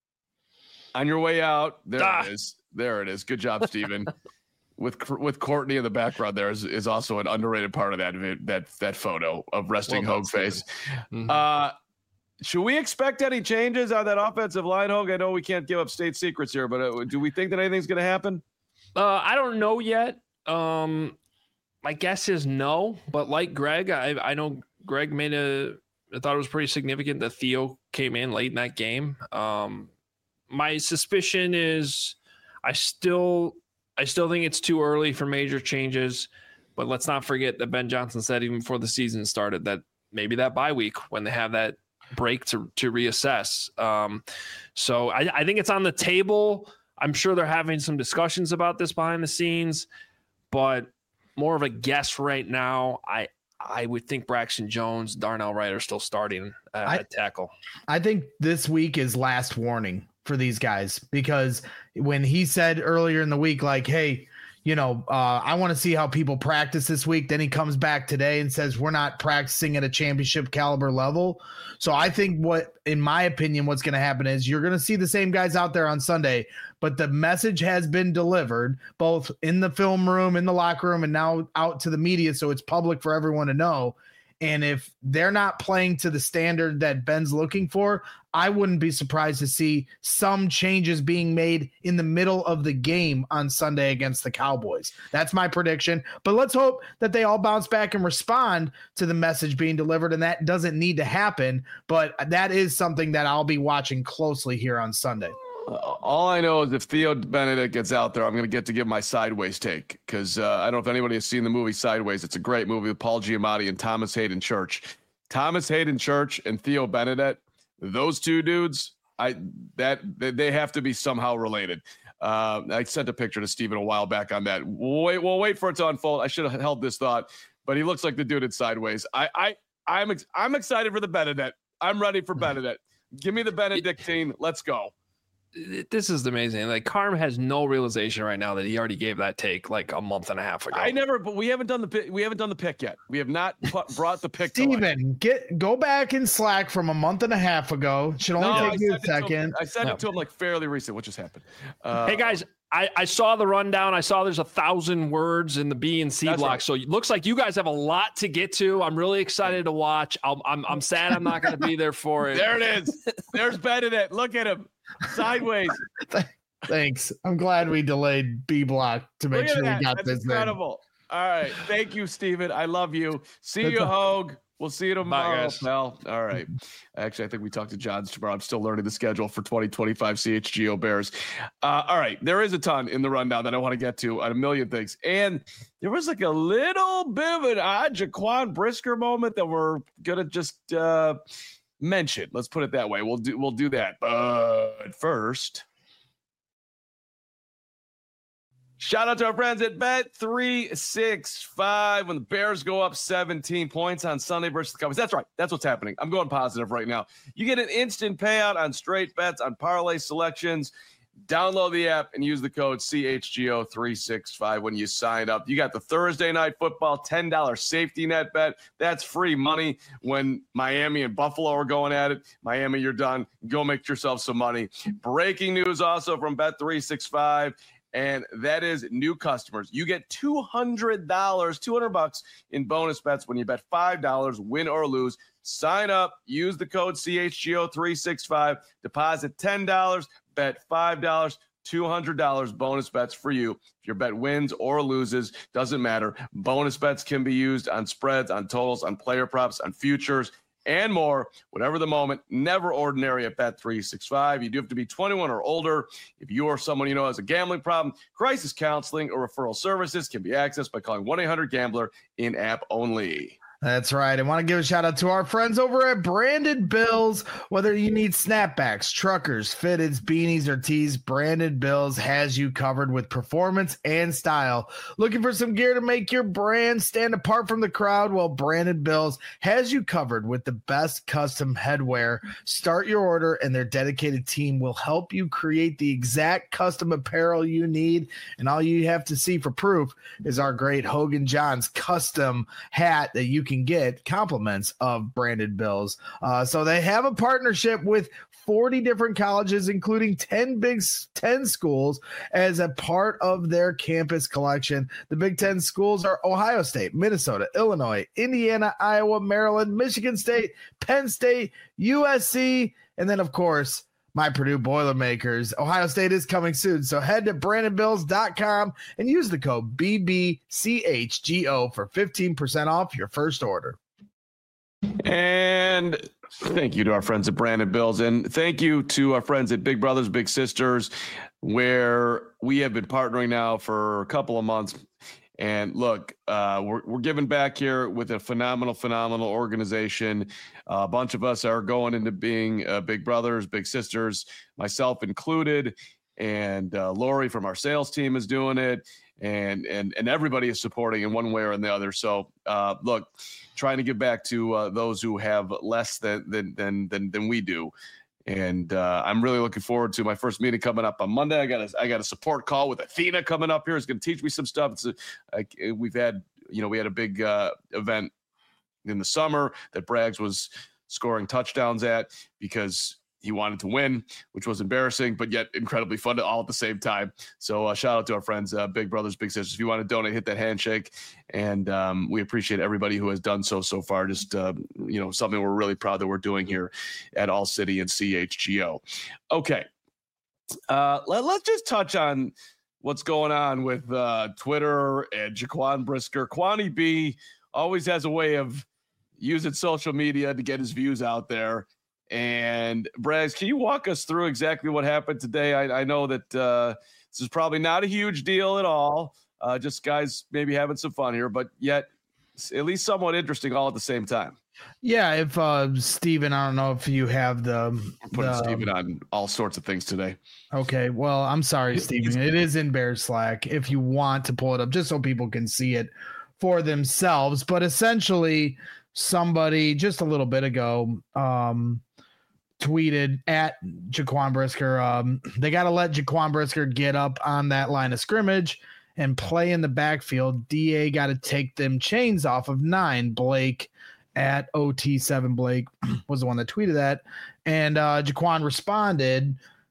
[SPEAKER 1] on your way out, there ah. it is. There it is. Good job, Steven. with with Courtney in the background, there is, is also an underrated part of that that that photo of resting well, Hogue face. Mm-hmm. Uh, should we expect any changes on that offensive line, Hogue? I know we can't give up state secrets here, but uh, do we think that anything's going to happen?
[SPEAKER 3] Uh, I don't know yet. Um, my guess is no, but like Greg, I I know Greg made a, I thought it was pretty significant that Theo came in late in that game. Um, my suspicion is I still, I still think it's too early for major changes, but let's not forget that Ben Johnson said even before the season started that maybe that bye week when they have that break to, to reassess. Um, so I, I think it's on the table. I'm sure they're having some discussions about this behind the scenes, but more of a guess right now. I I would think Braxton Jones, Darnell Wright are still starting uh, I, at tackle.
[SPEAKER 2] I think this week is last warning for these guys, because when he said earlier in the week, like, hey, you know, uh, I want to see how people practice this week. Then he comes back today and says, we're not practicing at a championship caliber level. So I think what, in my opinion, what's going to happen is you're going to see the same guys out there on Sunday, but the message has been delivered both in the film room, in the locker room, and now out to the media. So it's public for everyone to know. And if they're not playing to the standard that Ben's looking for, I wouldn't be surprised to see some changes being made in the middle of the game on Sunday against the Cowboys. That's my prediction. But let's hope that they all bounce back and respond to the message being delivered, and that doesn't need to happen. But that is something that I'll be watching closely here on Sunday.
[SPEAKER 1] Uh, all I know is if Theo Benedict gets out there, I'm going to get to give my sideways take, because uh, I don't know if anybody has seen the movie Sideways. It's a great movie with Paul Giamatti and Thomas Hayden Church. Thomas Hayden Church and Theo Benedict, those two dudes, I that they have to be somehow related. Uh, I sent a picture to Steven a while back on that. We'll wait, we'll wait for it to unfold. I should have held this thought, but he looks like the dude in Sideways. I, I, I'm ex- I'm excited for the Benedict. I'm ready for Benedict. Give me the Benedictine. Let's go.
[SPEAKER 3] This is amazing. Like, Carm has no realization right now that he already gave that take like a month and a half ago.
[SPEAKER 1] I never, but we haven't done the pick. We haven't done the pick yet. We have not put, brought the pick.
[SPEAKER 2] Steven, get go back in Slack from a month and a half ago. It should only
[SPEAKER 1] no,
[SPEAKER 2] take you a second.
[SPEAKER 1] I sent no. it to him like fairly recent. What just happened? Uh,
[SPEAKER 3] hey guys, I, I saw the rundown. I saw there's a thousand words in the B and C
[SPEAKER 1] That's
[SPEAKER 3] block.
[SPEAKER 1] right.
[SPEAKER 3] So it looks like you guys have a lot to get to. I'm really excited to watch. I'm I'm, I'm sad I'm not going to be there for it.
[SPEAKER 1] There it is. There's Benedict. Look at him sideways.
[SPEAKER 2] Thanks. I'm glad we delayed B block to make
[SPEAKER 1] Look at
[SPEAKER 2] sure
[SPEAKER 1] that.
[SPEAKER 2] we got
[SPEAKER 1] That's
[SPEAKER 2] this
[SPEAKER 1] incredible. All right. Thank you, Steven. I love you. See
[SPEAKER 2] That's
[SPEAKER 1] you,
[SPEAKER 2] a-
[SPEAKER 1] Hogue. We'll see you tomorrow,
[SPEAKER 3] guys.
[SPEAKER 1] pal. All right. Actually, I think we talked to Johns tomorrow. I'm still learning the schedule for twenty twenty-five C H G O Bears. Uh, all right. There is a ton in the rundown that I want to get to on a million things. And there was like a little bit of an odd Jaquan Brisker moment that we're going to just uh, mention. Let's put it that way. We'll do, we'll do that. But first, shout out to our friends at Bet three sixty-five. When the Bears go up seventeen points on Sunday versus the Cowboys. That's right. That's what's happening. I'm going positive right now. You get an instant payout on straight bets, on parlay selections. Download the app and use the code C H G O three sixty-five when you sign up. You got the Thursday night football ten dollars safety net bet. That's free money when Miami and Buffalo are going at it. Miami, you're done. Go make yourself some money. Breaking news also from Bet three sixty-five. And that is new customers. You get two hundred dollars, two hundred bucks in bonus bets when you bet five dollars, win or lose. Sign up, use the code C H G O three sixty-five, deposit ten dollars, bet five dollars, two hundred dollars bonus bets for you. If your bet wins or loses, doesn't matter. Bonus bets can be used on spreads, on totals, on player props, on futures, and more, whatever the moment. Never ordinary at Bet three sixty-five. You do have to be twenty-one or older. If you or someone you know has a gambling problem, crisis counseling or referral services can be accessed by calling one eight hundred gambler in-app only.
[SPEAKER 2] That's right. I want to give a shout out to our friends over at Branded Bills. Whether you need snapbacks, truckers, fitteds, beanies, or tees, Branded Bills has you covered with performance and style. Looking for some gear to make your brand stand apart from the crowd? Well, Branded Bills has you covered with the best custom headwear. Start your order, and their dedicated team will help you create the exact custom apparel you need. And all you have to see for proof is our great Hogan Johns custom hat that you can get compliments of Branded Bills. Uh, so they have a partnership with forty different colleges, including ten Big Ten schools, as a part of their campus collection. The Big Ten schools are Ohio State, Minnesota, Illinois, Indiana, Iowa, Maryland, Michigan State, Penn State, U S C, and then, of course, my Purdue Boilermakers. Ohio State is coming soon, so head to branded bills dot com and use the code B B C H G O for fifteen percent off your first order.
[SPEAKER 1] And thank you to our friends at Branded Bills. And thank you to our friends at Big Brothers Big Sisters, where we have been partnering now for a couple of months. And look, uh, we're, we're giving back here with a phenomenal, phenomenal organization. Uh, a bunch of us are going into being uh, big brothers, big sisters, myself included. And uh, Lori from our sales team is doing it. And and and everybody is supporting in one way or in the other. So uh, look, trying to give back to uh, those who have less than than than than, than we do. And uh, I'm really looking forward to my first meeting coming up on Monday. I got a, I got a support call with Athena coming up here. It's going to teach me some stuff. It's a, I, we've had, you know, we had a big uh, event in the summer that Braggs was scoring touchdowns at because he wanted to win, which was embarrassing, but yet incredibly fun all at the same time. So uh, shout out to our friends, uh, Big Brothers, Big Sisters. If you want to donate, hit that handshake. And um, we appreciate everybody who has done so so far. Just, uh, you know, something we're really proud that we're doing here at All City and C H G O. Okay. Uh, let, let's just touch on what's going on with uh, Twitter and Jaquan Brisker. Kwani B always has a way of using social media to get his views out there. And Braggs, can you walk us through exactly what happened today? I, I know that uh, this is probably not a huge deal at all. Uh, just guys maybe having some fun here, but yet at least somewhat interesting all at the same time.
[SPEAKER 2] Yeah, if uh, Steven, I don't know if you have the
[SPEAKER 1] We're putting
[SPEAKER 2] the,
[SPEAKER 1] Steven on all sorts of things today.
[SPEAKER 2] Okay, well, I'm sorry, Steven. It is in Bears Slack if you want to pull it up, just so people can see it for themselves. But essentially, somebody just a little bit ago um, tweeted at Jaquan Brisker, um, they got to let Jaquan Brisker get up on that line of scrimmage and play in the backfield. D A got to take them chains off of nine. Blake at O T seven Blake was the one that tweeted that. And uh, Jaquan responded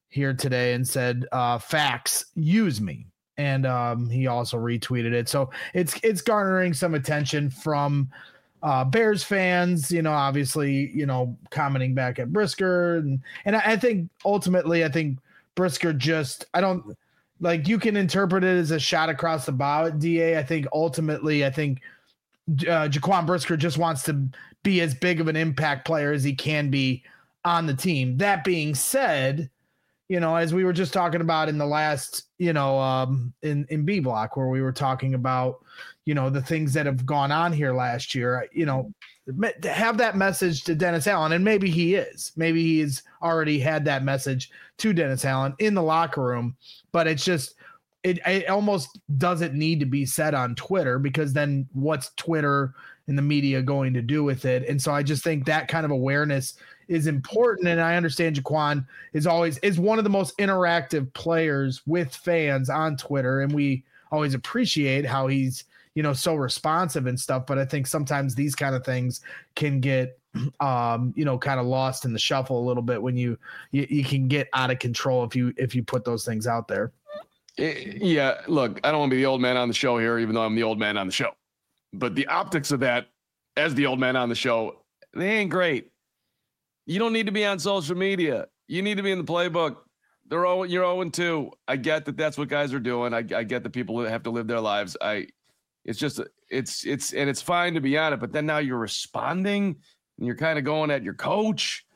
[SPEAKER 2] here today and said, uh, facts, use me. And um, he also retweeted it. So it's it's garnering some attention from uh, Bears fans, you know, obviously, you know, commenting back at Brisker. And, and I, I think ultimately, I think Brisker just, I don't, like, you can interpret it as a shot across the bow at D A. I think ultimately, I think uh, Jaquan Brisker just wants to be as big of an impact player as he can be on the team. That being said, you know, as we were just talking about in the last, you know, um, in, in B block, where we were talking about, you know, the things that have gone on here last year, you know, to have that message to Dennis Allen, and maybe he is, maybe he's already had that message to Dennis Allen in the locker room, but it's just, it, it almost doesn't need to be said on Twitter, because then what's Twitter and the media going to do with it? And so I just think that kind of awareness is important. And I understand Jaquan is always is one of the most interactive players with fans on Twitter. And we always appreciate how he's, you know, so responsive and stuff. But I think sometimes these kind of things can get, um, you know, kind of lost in the shuffle a little bit when you, you, you can get out of control if you, if you put those things out there.
[SPEAKER 1] Yeah. Look, I don't want to be the old man on the show here, even though I'm the old man on the show, but the optics of that as the old man on the show, they ain't great. You don't need to be on social media. You need to be in the playbook. They're all, you're oh and two. I get that that's what guys are doing. I, I get that people have to live their lives. I, it's just, it's, it's, and it's fine to be on it, but then now you're responding and you're kind of going at your coach.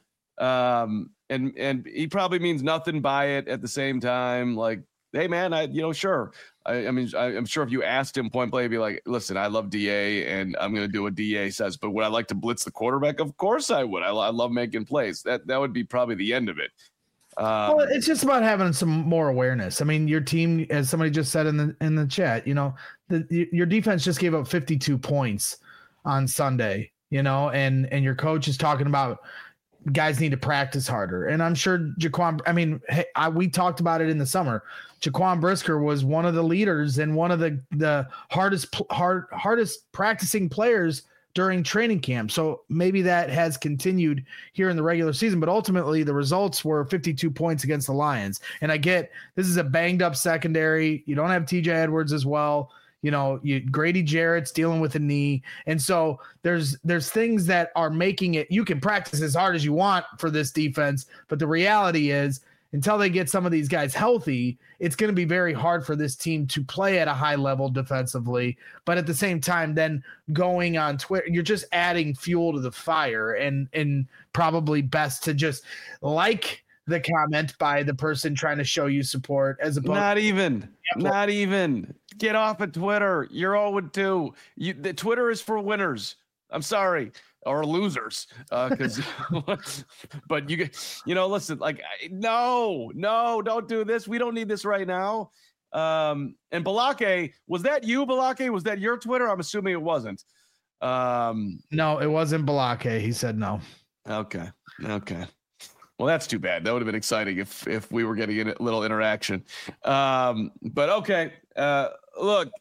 [SPEAKER 1] Um, and, and he probably means nothing by it at the same time. Like, hey man, I, you know, sure. I, I mean, I, I'm sure if you asked him point blank, he'd be like, listen, I love D A and I'm going to do what D A says, but would I like to blitz the quarterback? Of course I would. I, I love making plays. That, that would be probably the end of it. Um,
[SPEAKER 2] well, it's just about having some more awareness. I mean, your team, as somebody just said in the, in the chat, you know, the, your defense just gave up fifty-two points on Sunday, you know, and, and your coach is talking about guys need to practice harder. And I'm sure Jaquan, I mean, hey, I, we talked about it in the summer. Jaquan Brisker was one of the leaders and one of the, the hardest, hard, hardest practicing players during training camp. So maybe that has continued here in the regular season, but ultimately the results were fifty-two points against the Lions. And I get, this is a banged up secondary. You don't have T J Edwards as well. You know, you Grady Jarrett's dealing with a knee. And so there's, there's things that are making it, you can practice as hard as you want for this defense. But the reality is, until they get some of these guys healthy, it's going to be very hard for this team to play at a high level defensively. But at the same time, then going on Twitter, you're just adding fuel to the fire, and, and probably best to just like the comment by the person trying to show you support as opposed
[SPEAKER 1] not even, not even get off of Twitter. You're oh and two. You, the Twitter is for winners. I'm sorry. Or losers, because, uh, but you, you know, listen, like, no, no, don't do this. We don't need this right now. Um, and Balake, was that you, Balake? Was that your Twitter? I'm assuming it wasn't. Um,
[SPEAKER 2] no, it wasn't Balake. He said no.
[SPEAKER 1] Okay, okay. Well, that's too bad. That would have been exciting if if we were getting a little interaction. Um, but okay, uh, look,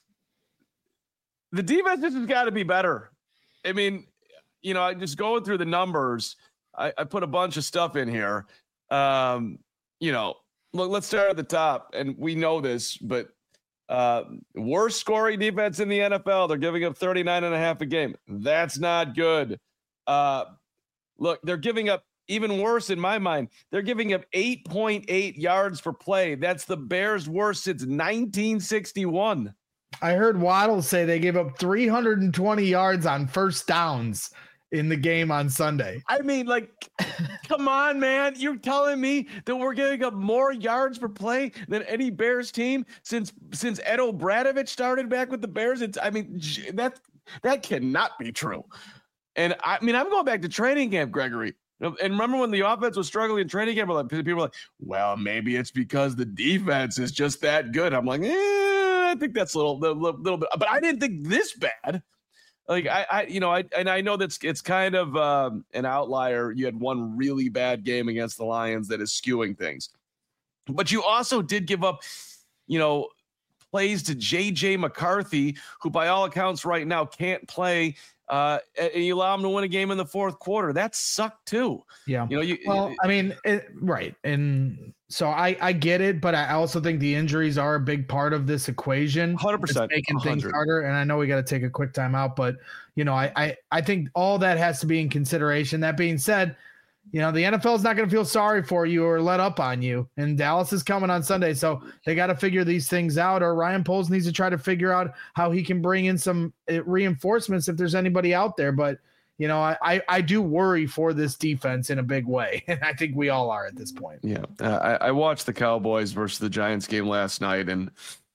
[SPEAKER 1] the defense has got to be better. I mean. You know, I just going through the numbers. I, I put a bunch of stuff in here. Um, you know, look, let's start at the top. And we know this, but uh, worst scoring defense in the N F L. They're giving up thirty-nine and a half a game. That's not good. Uh, look, they're giving up even worse in my mind. They're giving up eight point eight yards per play. That's the Bears' worst since nineteen sixty-one.
[SPEAKER 2] I heard Waddle say they gave up three hundred twenty yards on first downs in the game on Sunday.
[SPEAKER 1] I mean, like, come on, man. You're telling me that we're giving up more yards per play than any Bears team since since Ed O'Bradovich started back with the Bears? It's, I mean, that that cannot be true. And I mean, I'm going back to training camp, Gregory. And remember when the offense was struggling in training camp, people were like, well, maybe it's because the defense is just that good. I'm like, eh, I think that's a little, little, little bit, but I didn't think this bad. Like I, I, you know, I, and I know that's, it's kind of um, an outlier. You had one really bad game against the Lions that is skewing things, but you also did give up, you know, plays to J J McCarthy, who by all accounts right now can't play uh, and you allow them to win a game in the fourth quarter. That sucked too.
[SPEAKER 2] Yeah.
[SPEAKER 1] You know, you,
[SPEAKER 2] well, I mean, it, right. And so I, I get it, but I also think the injuries are a big part of this equation.
[SPEAKER 1] one hundred percent.
[SPEAKER 2] It's making
[SPEAKER 1] one hundred.
[SPEAKER 2] things harder. And I know we got to take a quick time out, but, you know, I, I, I think all that has to be in consideration. That being said, you know, the N F L is not going to feel sorry for you or let up on you. And Dallas is coming on Sunday. So they got to figure these things out, or Ryan Poles needs to try to figure out how he can bring in some reinforcements if there's anybody out there. But, you know, I, I, I do worry for this defense in a big way. And I think we all are at this point.
[SPEAKER 1] Yeah. Uh, I, I watched the Cowboys versus the Giants game last night, and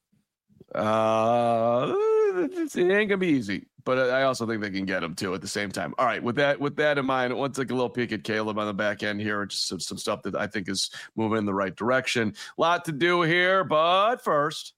[SPEAKER 1] uh, it ain't going to be easy. But I also think they can get them too at the same time. All right, with that with that in mind, I want to take a little peek at Caleb on the back end here, just some, some stuff that I think is moving in the right direction. A lot to do here, but first,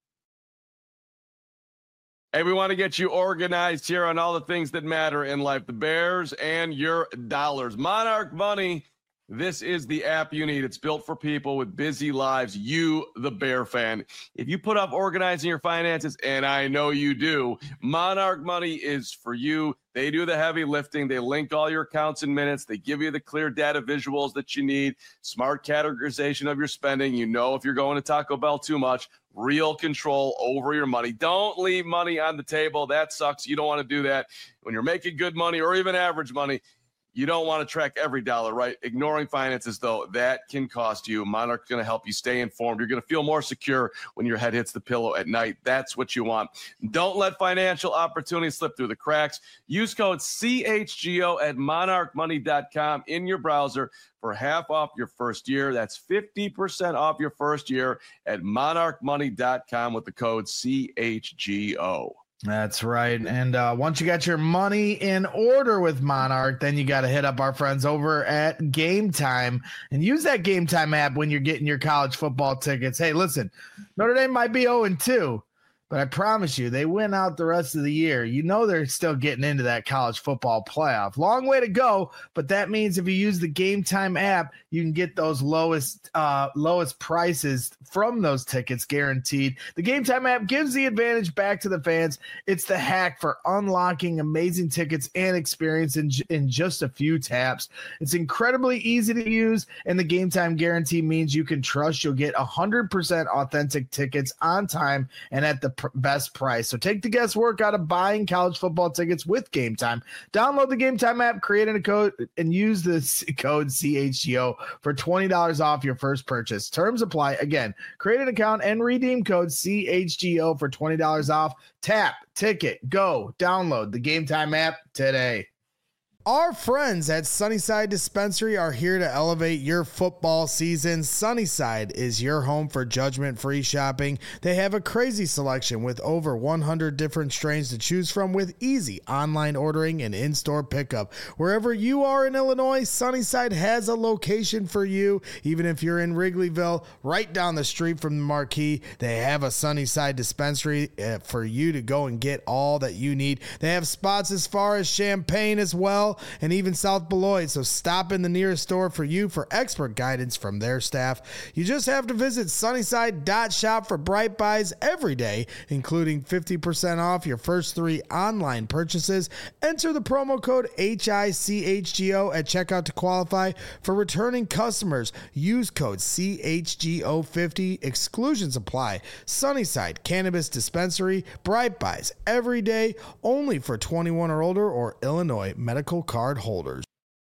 [SPEAKER 1] hey, we want to get you organized here on all the things that matter in life, the Bears and your dollars. Monarch Money. This is the app you need. It's built for people with busy lives. You, the Bear fan. If you put off organizing your finances, and I know you do, Monarch Money is for you. They do the heavy lifting. They link all your accounts in minutes. They give you the clear data visuals that you need, smart categorization of your spending. You know if you're going to Taco Bell too much, real control over your money. Don't leave money on the table. That sucks. You don't want to do that. When you're making good money or even average money, you don't want to track every dollar, right? Ignoring finances, though, that can cost you. Monarch's going to help you stay informed. You're going to feel more secure when your head hits the pillow at night. That's what you want. Don't let financial opportunities slip through the cracks. Use code C H G O at monarch money dot com in your browser for half off your first year. That's fifty percent off your first year at monarch money dot com with the code C H G O.
[SPEAKER 2] That's right. And uh, once you got your money in order with Monarch, then you got to hit up our friends over at Game Time and use that Game Time app when you're getting your college football tickets. Hey, listen, Notre Dame might be oh and two, but I promise you, they win out the rest of the year. You know they're still getting into that college football playoff. Long way to go, but that means if you use the Game Time app, you can get those lowest uh, lowest prices from those tickets guaranteed. The Game Time app gives the advantage back to the fans. It's the hack for unlocking amazing tickets and experience in, in just a few taps. It's incredibly easy to use, and the Game Time guarantee means you can trust you'll get one hundred percent authentic tickets on time and at the pr- best price. So take the guesswork out of buying college football tickets with Game Time. Download the Game Time app, create a code, and use the code C H G O for twenty dollars off your first purchase. Terms apply. Again, create an account and redeem code C H G O for twenty dollars off. Tap, ticket, go. Download the Game Time app today. Our friends at Sunnyside Dispensary are here to elevate your football season. Sunnyside is your home for judgment-free shopping. They have a crazy selection with over one hundred different strains to choose from with easy online ordering and in-store pickup. Wherever you are in Illinois, Sunnyside has a location for you. Even if you're in Wrigleyville, right down the street from the Marquee, they have a Sunnyside Dispensary uh, for you to go and get all that you need. They have spots as far as Champaign as well, and even South Beloit, so stop in the nearest store for you for expert guidance from their staff. You just have to visit sunnyside dot shop for bright buys every day, including fifty percent off your first three online purchases. Enter the promo code H I C H G O at checkout to qualify. For returning customers, use code C H G O fifty. Exclusions apply. Sunnyside Cannabis Dispensary, bright buys every day, only for twenty-one or older or Illinois medical card holders.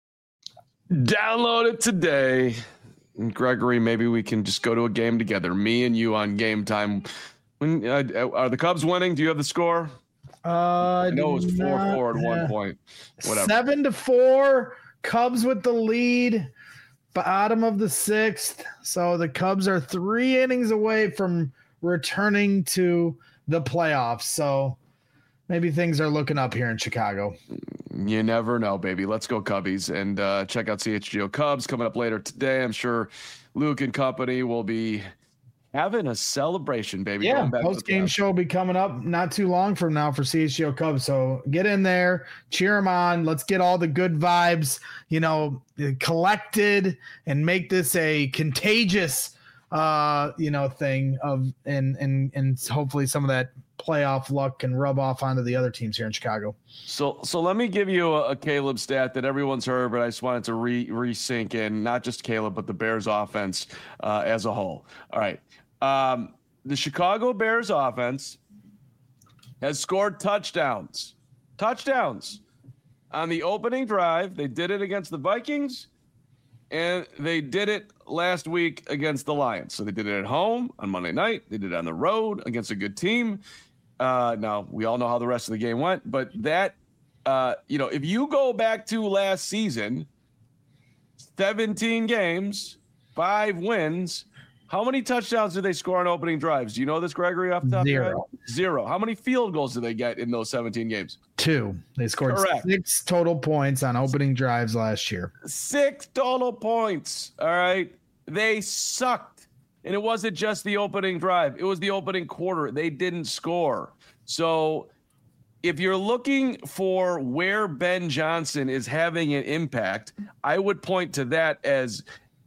[SPEAKER 1] Download it today. And Gregory, maybe we can just go to a game together. Me and you on Game Time. When uh, are the Cubs winning? Do you have the score?
[SPEAKER 2] Uh,
[SPEAKER 1] I know it was four
[SPEAKER 2] not,
[SPEAKER 1] four at
[SPEAKER 2] yeah.
[SPEAKER 1] one point. Whatever.
[SPEAKER 2] Seven to four. Cubs with the lead. Bottom of the sixth. So the Cubs are three innings away from returning to the playoffs. So maybe things are looking up here in Chicago.
[SPEAKER 1] You never know, baby. Let's go Cubbies, and uh, check out C H G O Cubs coming up later today. I'm sure Luke and company will be having a celebration, baby.
[SPEAKER 2] Yeah, post-game show will be coming up not too long from now for C H G O Cubs. So get in there, cheer them on. Let's get all the good vibes, you know, collected and make this a contagious, uh, you know, thing of and and and hopefully some of that playoff luck can rub off onto the other teams here in Chicago.
[SPEAKER 1] So, so let me give you a, a Caleb stat that everyone's heard, but I just wanted to re re-sink in, not just Caleb, but the Bears offense uh, as a whole. All right. Um, the Chicago Bears offense has scored touchdowns, touchdowns on the opening drive. They did it against the Vikings, and they did it last week against the Lions. So they did it at home on Monday night. They did it on the road against a good team. Uh, now, we all know how the rest of the game went, but that, uh, you know, if you go back to last season, seventeen games, five wins, how many touchdowns did they score on opening drives? Do you know this, Gregory, off the top
[SPEAKER 2] Zero.
[SPEAKER 1] of your head? Zero. How many field goals did they get in those seventeen games?
[SPEAKER 2] Two. They scored
[SPEAKER 1] Correct.
[SPEAKER 2] six total points on opening drives last year.
[SPEAKER 1] Six total points. All right. They sucked. And it wasn't just the opening drive. It was the opening quarter. They didn't score. So if you're looking for where Ben Johnson is having an impact, I would point to that as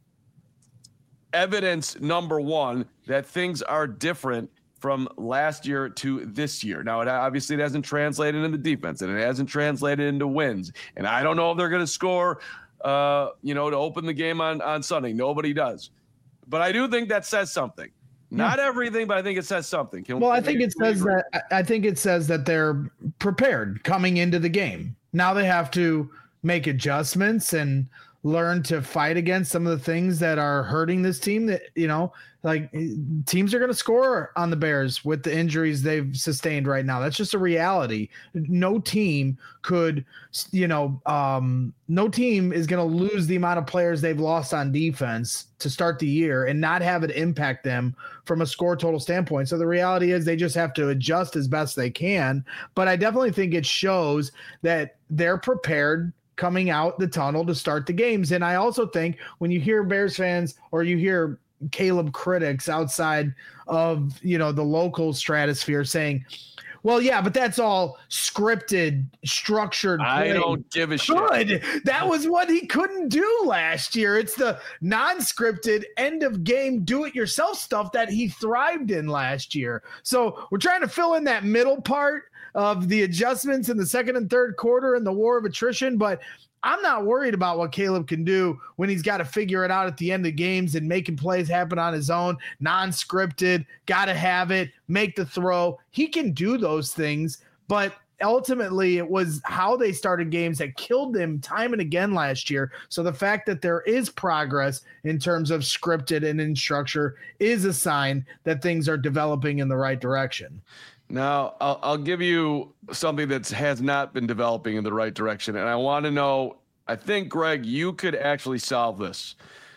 [SPEAKER 1] evidence number one that things are different from last year to this year. Now, it obviously it hasn't translated into defense, and it hasn't translated into wins. And I don't know if they're going to score, uh, you know, to open the game on, on Sunday. Nobody does. But I do think that says something. Not yeah. everything, but I think it says something. Can,
[SPEAKER 2] well, I think it says agree? that I think it says that they're prepared coming into the game. Now they have to make adjustments and learn to fight against some of the things that are hurting this team. That, you know, like teams are going to score on the Bears with the injuries they've sustained right now. That's just a reality. No team could, you know, um, no team is going to lose the amount of players they've lost on defense to start the year and not have it impact them from a score total standpoint. So the reality is they just have to adjust as best they can. But I definitely think it shows that they're prepared coming out the tunnel to start the games. And I also think when you hear Bears fans or you hear Caleb critics outside of, you know, the local stratosphere saying, well, yeah, but that's all scripted, structured play.
[SPEAKER 1] I don't give a shit.
[SPEAKER 2] Good. That was what he couldn't do last year. It's the non-scripted end of game do-it-yourself stuff that he thrived in last year. So we're trying to fill in that middle part of the adjustments in the second and third quarter and the war of attrition, but I'm not worried about what Caleb can do when he's got to figure it out at the end of games and making plays happen on his own, non-scripted, got to have it, make the throw. He can do those things, but ultimately it was how they started games that killed them time and again last year. So the fact that there is progress in terms of scripted and in structure is a sign that things are developing in the right direction.
[SPEAKER 1] Now, I'll, I'll give you something that has not been developing in the right direction. And I want to know, I think, Greg, you could actually solve this.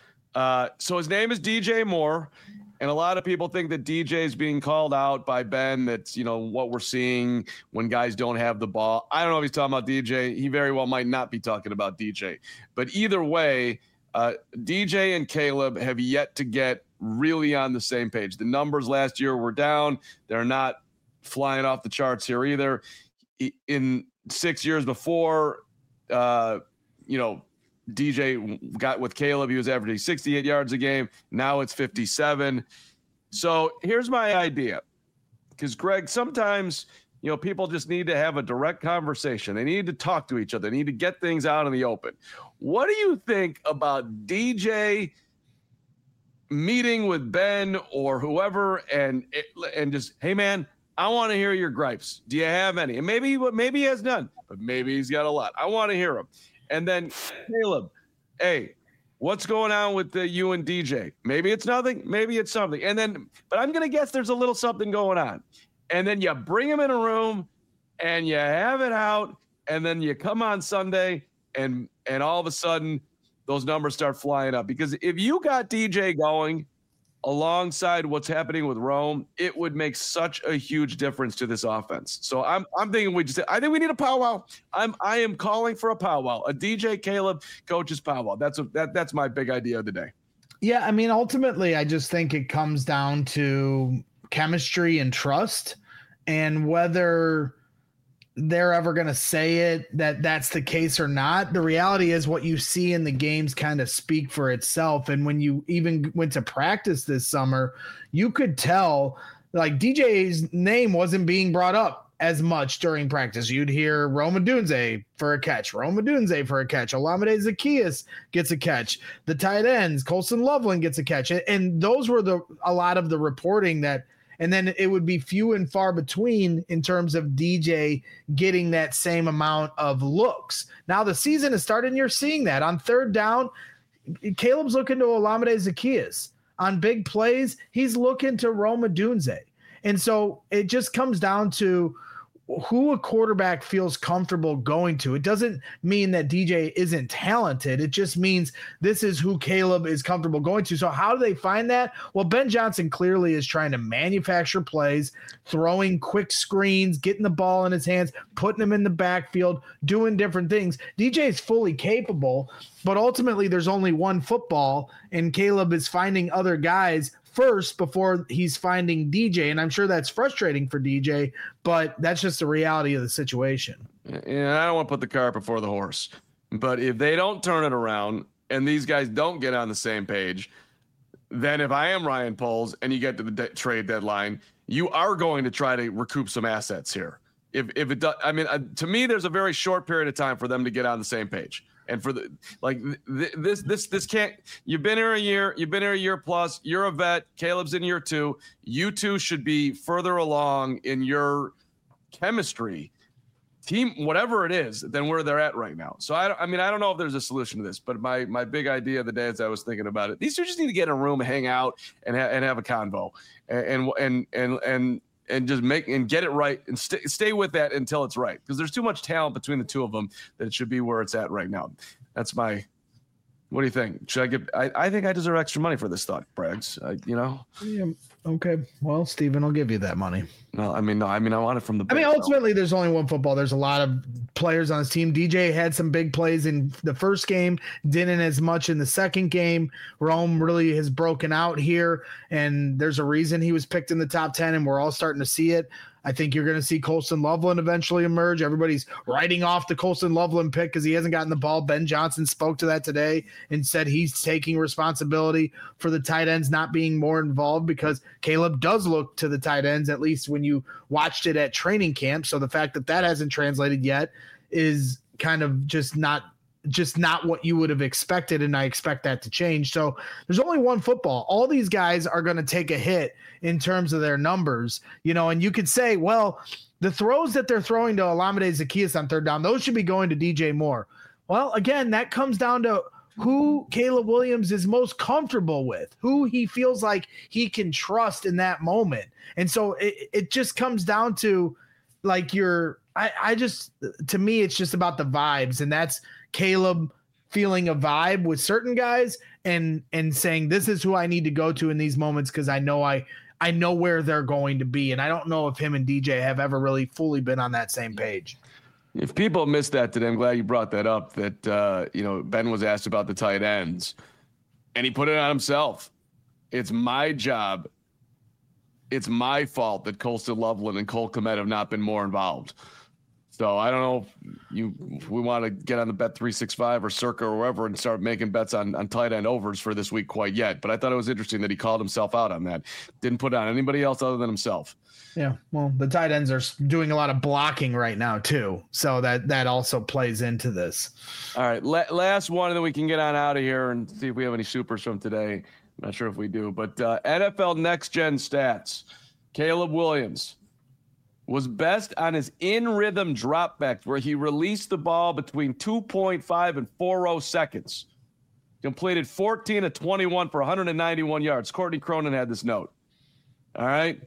[SPEAKER 1] Uh, so his name is D J Moore. And a lot of people think that D J is being called out by Ben. That's, you know, what we're seeing when guys don't have the ball. I don't know if he's talking about D J. He very well might not be talking about D J. But either way, uh, D J and Caleb have yet to get really on the same page. The numbers last year were down. They're not flying off the charts here either. In six years before, uh, you know, D J got with Caleb, he was averaging sixty-eight yards a game. Now it's fifty-seven. So here's my idea. Because, Greg, sometimes, you know, people just need to have a direct conversation. They need to talk to each other. They need to get things out in the open. What do you think about D J meeting with Ben or whoever and and just, hey, man, I want to hear your gripes. Do you have any? And maybe maybe he has none, but maybe he's got a lot. I want to hear them. And then, Caleb, hey, what's going on with the, you and D J? Maybe it's nothing. Maybe it's something. And then, but I'm going to guess there's a little something going on. And then you bring him in a room and you have it out. And then you come on Sunday and and all of a sudden those numbers start flying up. Because if you got D J going alongside what's happening with Rome, it would make such a huge difference to this offense. So I'm I'm thinking we just I think we need a powwow. I'm I am calling for a powwow, a D J Caleb coaches powwow. That's a, that that's my big idea of the day.
[SPEAKER 2] Yeah, I mean, ultimately, I just think it comes down to chemistry and trust, and whether they're ever going to say it that that's the case or not. The reality is what you see in the games kind of speak for itself. And when you even went to practice this summer, you could tell like D J's name wasn't being brought up as much during practice. You'd hear Rome Odunze for a catch, Rome Odunze for a catch, Olamide Zaccheaus gets a catch, the tight ends, Colston Loveland gets a catch. And those were the a lot of the reporting that, and then it would be few and far between in terms of D J getting that same amount of looks. Now the season has started and you're seeing that. On third down, Caleb's looking to Olamide Zaccheaus. On big plays, he's looking to Rome Odunze. And so it just comes down to who a quarterback feels comfortable going to. It doesn't mean that D J isn't talented. It just means this is who Caleb is comfortable going to. So how do they find that? Well, Ben Johnson clearly is trying to manufacture plays, throwing quick screens, getting the ball in his hands, putting him in the backfield, doing different things. D J is fully capable, but ultimately there's only one football, and Caleb is finding other guys first before he's finding D J. And I'm sure that's frustrating for D J, but that's just the reality of the situation.
[SPEAKER 1] Yeah, I don't want to put the cart before the horse, but if they don't turn it around and these guys don't get on the same page, then if I am Ryan Poles and you get to the de- trade deadline, you are going to try to recoup some assets here. If if it does, I mean, uh, to me, there's a very short period of time for them to get on the same page. And for the like th- this this this can't. You've been here a year. You've been here a year plus. You're a vet. Caleb's in year two. You two should be further along in your chemistry, team, whatever it is, than where they're at right now. So I, I mean, I don't know if there's a solution to this, but my my big idea of the day as I was thinking about it, these two just need to get in a room, hang out, and ha- and have a convo, and and and and. and just make and get it right and stay stay with that until it's right, because there's too much talent between the two of them that it should be where it's at right now. That's my. What do you think? Should I give? I, I think I deserve extra money for this thought, Braggs. I, you know.
[SPEAKER 2] Yeah. Okay. Well, Steven, I'll give you that money.
[SPEAKER 1] No, I mean, no, I mean, I want it from the.
[SPEAKER 2] I mean, ultimately, there's only one football. There's a lot of players on his team. D J had some big plays in the first game, didn't as much in the second game. Rome really has broken out here, and there's a reason he was picked in the top ten, and we're all starting to see it. I think you're going to see Colston Loveland eventually emerge. Everybody's writing off the Colston Loveland pick because he hasn't gotten the ball. Ben Johnson spoke to that today and said he's taking responsibility for the tight ends not being more involved, because Caleb does look to the tight ends, at least when you watched it at training camp. So the fact that that hasn't translated yet is kind of just not just not what you would have expected, and I expect that to change. So there's only one football. All these guys are going to take a hit in terms of their numbers, you know, and you could say, well, the throws that they're throwing to Olamide Zaccheaus on third down, those should be going to D J Moore. Well, again, that comes down to who Caleb Williams is most comfortable with, who he feels like he can trust in that moment. And so it, it just comes down to like your, I, I just, to me, it's just about the vibes, and that's Caleb feeling a vibe with certain guys and and saying this is who I need to go to in these moments, because I know I I know where they're going to be. And I don't know if him and D J have ever really fully been on that same page.
[SPEAKER 1] If people missed that today, I'm glad you brought that up, that uh, you know, Ben was asked about the tight ends and he put it on himself. It's my job. It's my fault that Colston Loveland and Cole Kmet have not been more involved. So I don't know if you if we want to get on the Bet three sixty-five or Circa or wherever and start making bets on, on tight end overs for this week quite yet. But I thought it was interesting that he called himself out on that. Didn't put it on anybody else other than himself.
[SPEAKER 2] Yeah, well, the tight ends are doing a lot of blocking right now too, so that that also plays into this.
[SPEAKER 1] All right, la- last one, and then we can get on out of here and see if we have any supers from today. I'm not sure if we do, but uh, N F L Next Gen stats. Caleb Williams was best on his in-rhythm dropbacks, where he released the ball between two point five and forty seconds. Completed fourteen of twenty-one for one hundred ninety-one yards. Courtney Cronin had this note. All right.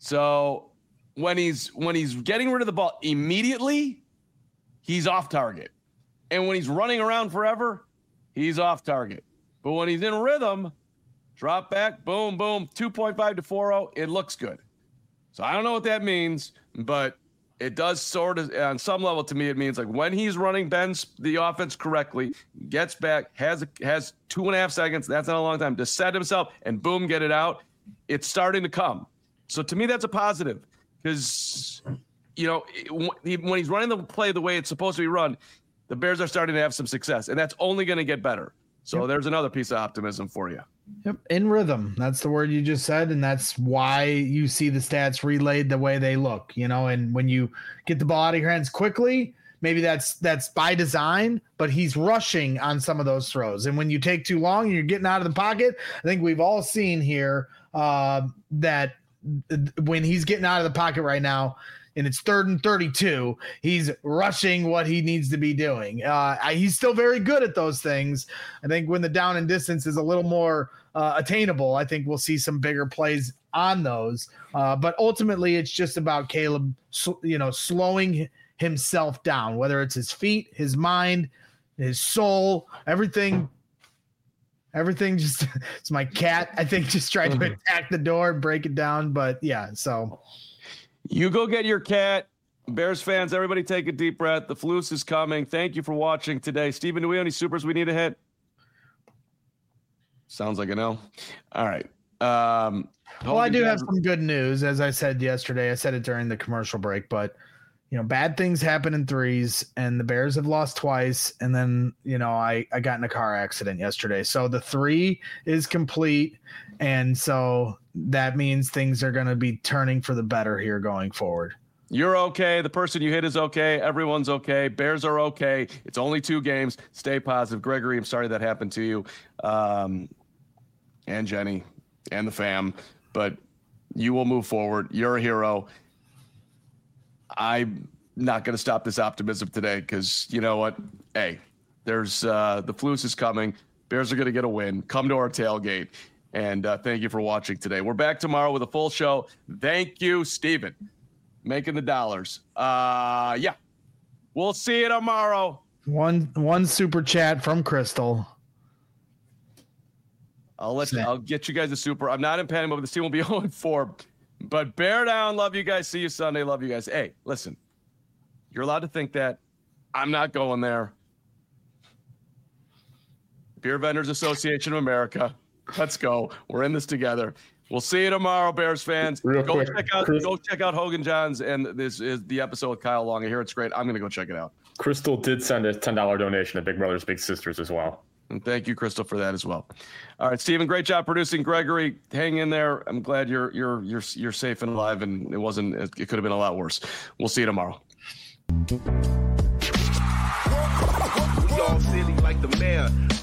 [SPEAKER 1] So when he's when he's getting rid of the ball immediately, he's off target. And when he's running around forever, he's off target. But when he's in rhythm, drop back, boom, boom, two point five to forty, it looks good. So I don't know what that means, but it does sort of, on some level to me, it means like when he's running Ben's the offense correctly, gets back, has has two and a half seconds, that's not a long time, to set himself and boom, get it out. It's starting to come. So to me, that's a positive, because, you know, when he's running the play the way it's supposed to be run, the Bears are starting to have some success, and that's only going to get better. So
[SPEAKER 2] yep.
[SPEAKER 1] there's another piece of optimism for you.
[SPEAKER 2] Yep, in rhythm. That's the word you just said, and that's why you see the stats relayed the way they look. You know, and when you get the ball out of your hands quickly, maybe that's that's by design, but he's rushing on some of those throws. And when you take too long and you're getting out of the pocket, I think we've all seen here uh, that when he's getting out of the pocket right now, and it's third and thirty-two, he's rushing what he needs to be doing. Uh, he's still very good at those things. I think when the down and distance is a little more uh, attainable, I think we'll see some bigger plays on those. Uh, but ultimately, it's just about Caleb, you know, slowing himself down, whether it's his feet, his mind, his soul, everything. Everything just, it's my cat, I think, just tried to attack the door and break it down. But yeah, so.
[SPEAKER 1] You go get your cat. Bears fans, everybody take a deep breath. The Flus is coming. Thank you for watching today. Steven, do we have any supers we need to hit? Sounds like a no. All right. Um,
[SPEAKER 2] well, I do have some good news. As I said yesterday, I said it during the commercial break, but, you know, bad things happen in threes, and the Bears have lost twice. And then, you know, I, I got in a car accident yesterday. So the three is complete. And so that means things are going to be turning for the better here going forward.
[SPEAKER 1] You're okay. The person you hit is okay. Everyone's okay. Bears are okay. It's only two games. Stay positive. Gregory, I'm sorry that happened to you. Um, and Jenny and the fam, but you will move forward. You're a hero. I'm not going to stop this optimism today because you know what? Hey, there's uh, the Flus is coming. Bears are going to get a win. Come to our tailgate. And uh, thank you for watching today. We're back tomorrow with a full show. Thank you, Steven. Making the dollars. Uh, yeah. We'll see you tomorrow.
[SPEAKER 2] One one super chat from Crystal.
[SPEAKER 1] I'll let you, I'll get you guys a super. I'm not in panic mode. This team will be oh and four. But bear down. Love you guys. See you Sunday. Love you guys. Hey, listen. You're allowed to think that. I'm not going there. Beer Vendors Association of America. Let's go. We're in this together. We'll see you tomorrow, Bears fans.
[SPEAKER 7] Real
[SPEAKER 1] go
[SPEAKER 7] quick,
[SPEAKER 1] check out
[SPEAKER 7] Chris,
[SPEAKER 1] go check out Hogan Johns, and this is the episode with Kyle Long. I hear it's great. I'm gonna go check it out.
[SPEAKER 7] Crystal did send a ten dollar donation to Big Brothers Big Sisters as well.
[SPEAKER 1] And thank you, Crystal, for that as well. All right, Steven, great job producing. Gregory, hang in there. I'm glad you're you're you're you're safe and alive, and it wasn't it could have been a lot worse. We'll see you tomorrow.
[SPEAKER 8] We all silly like the mayor.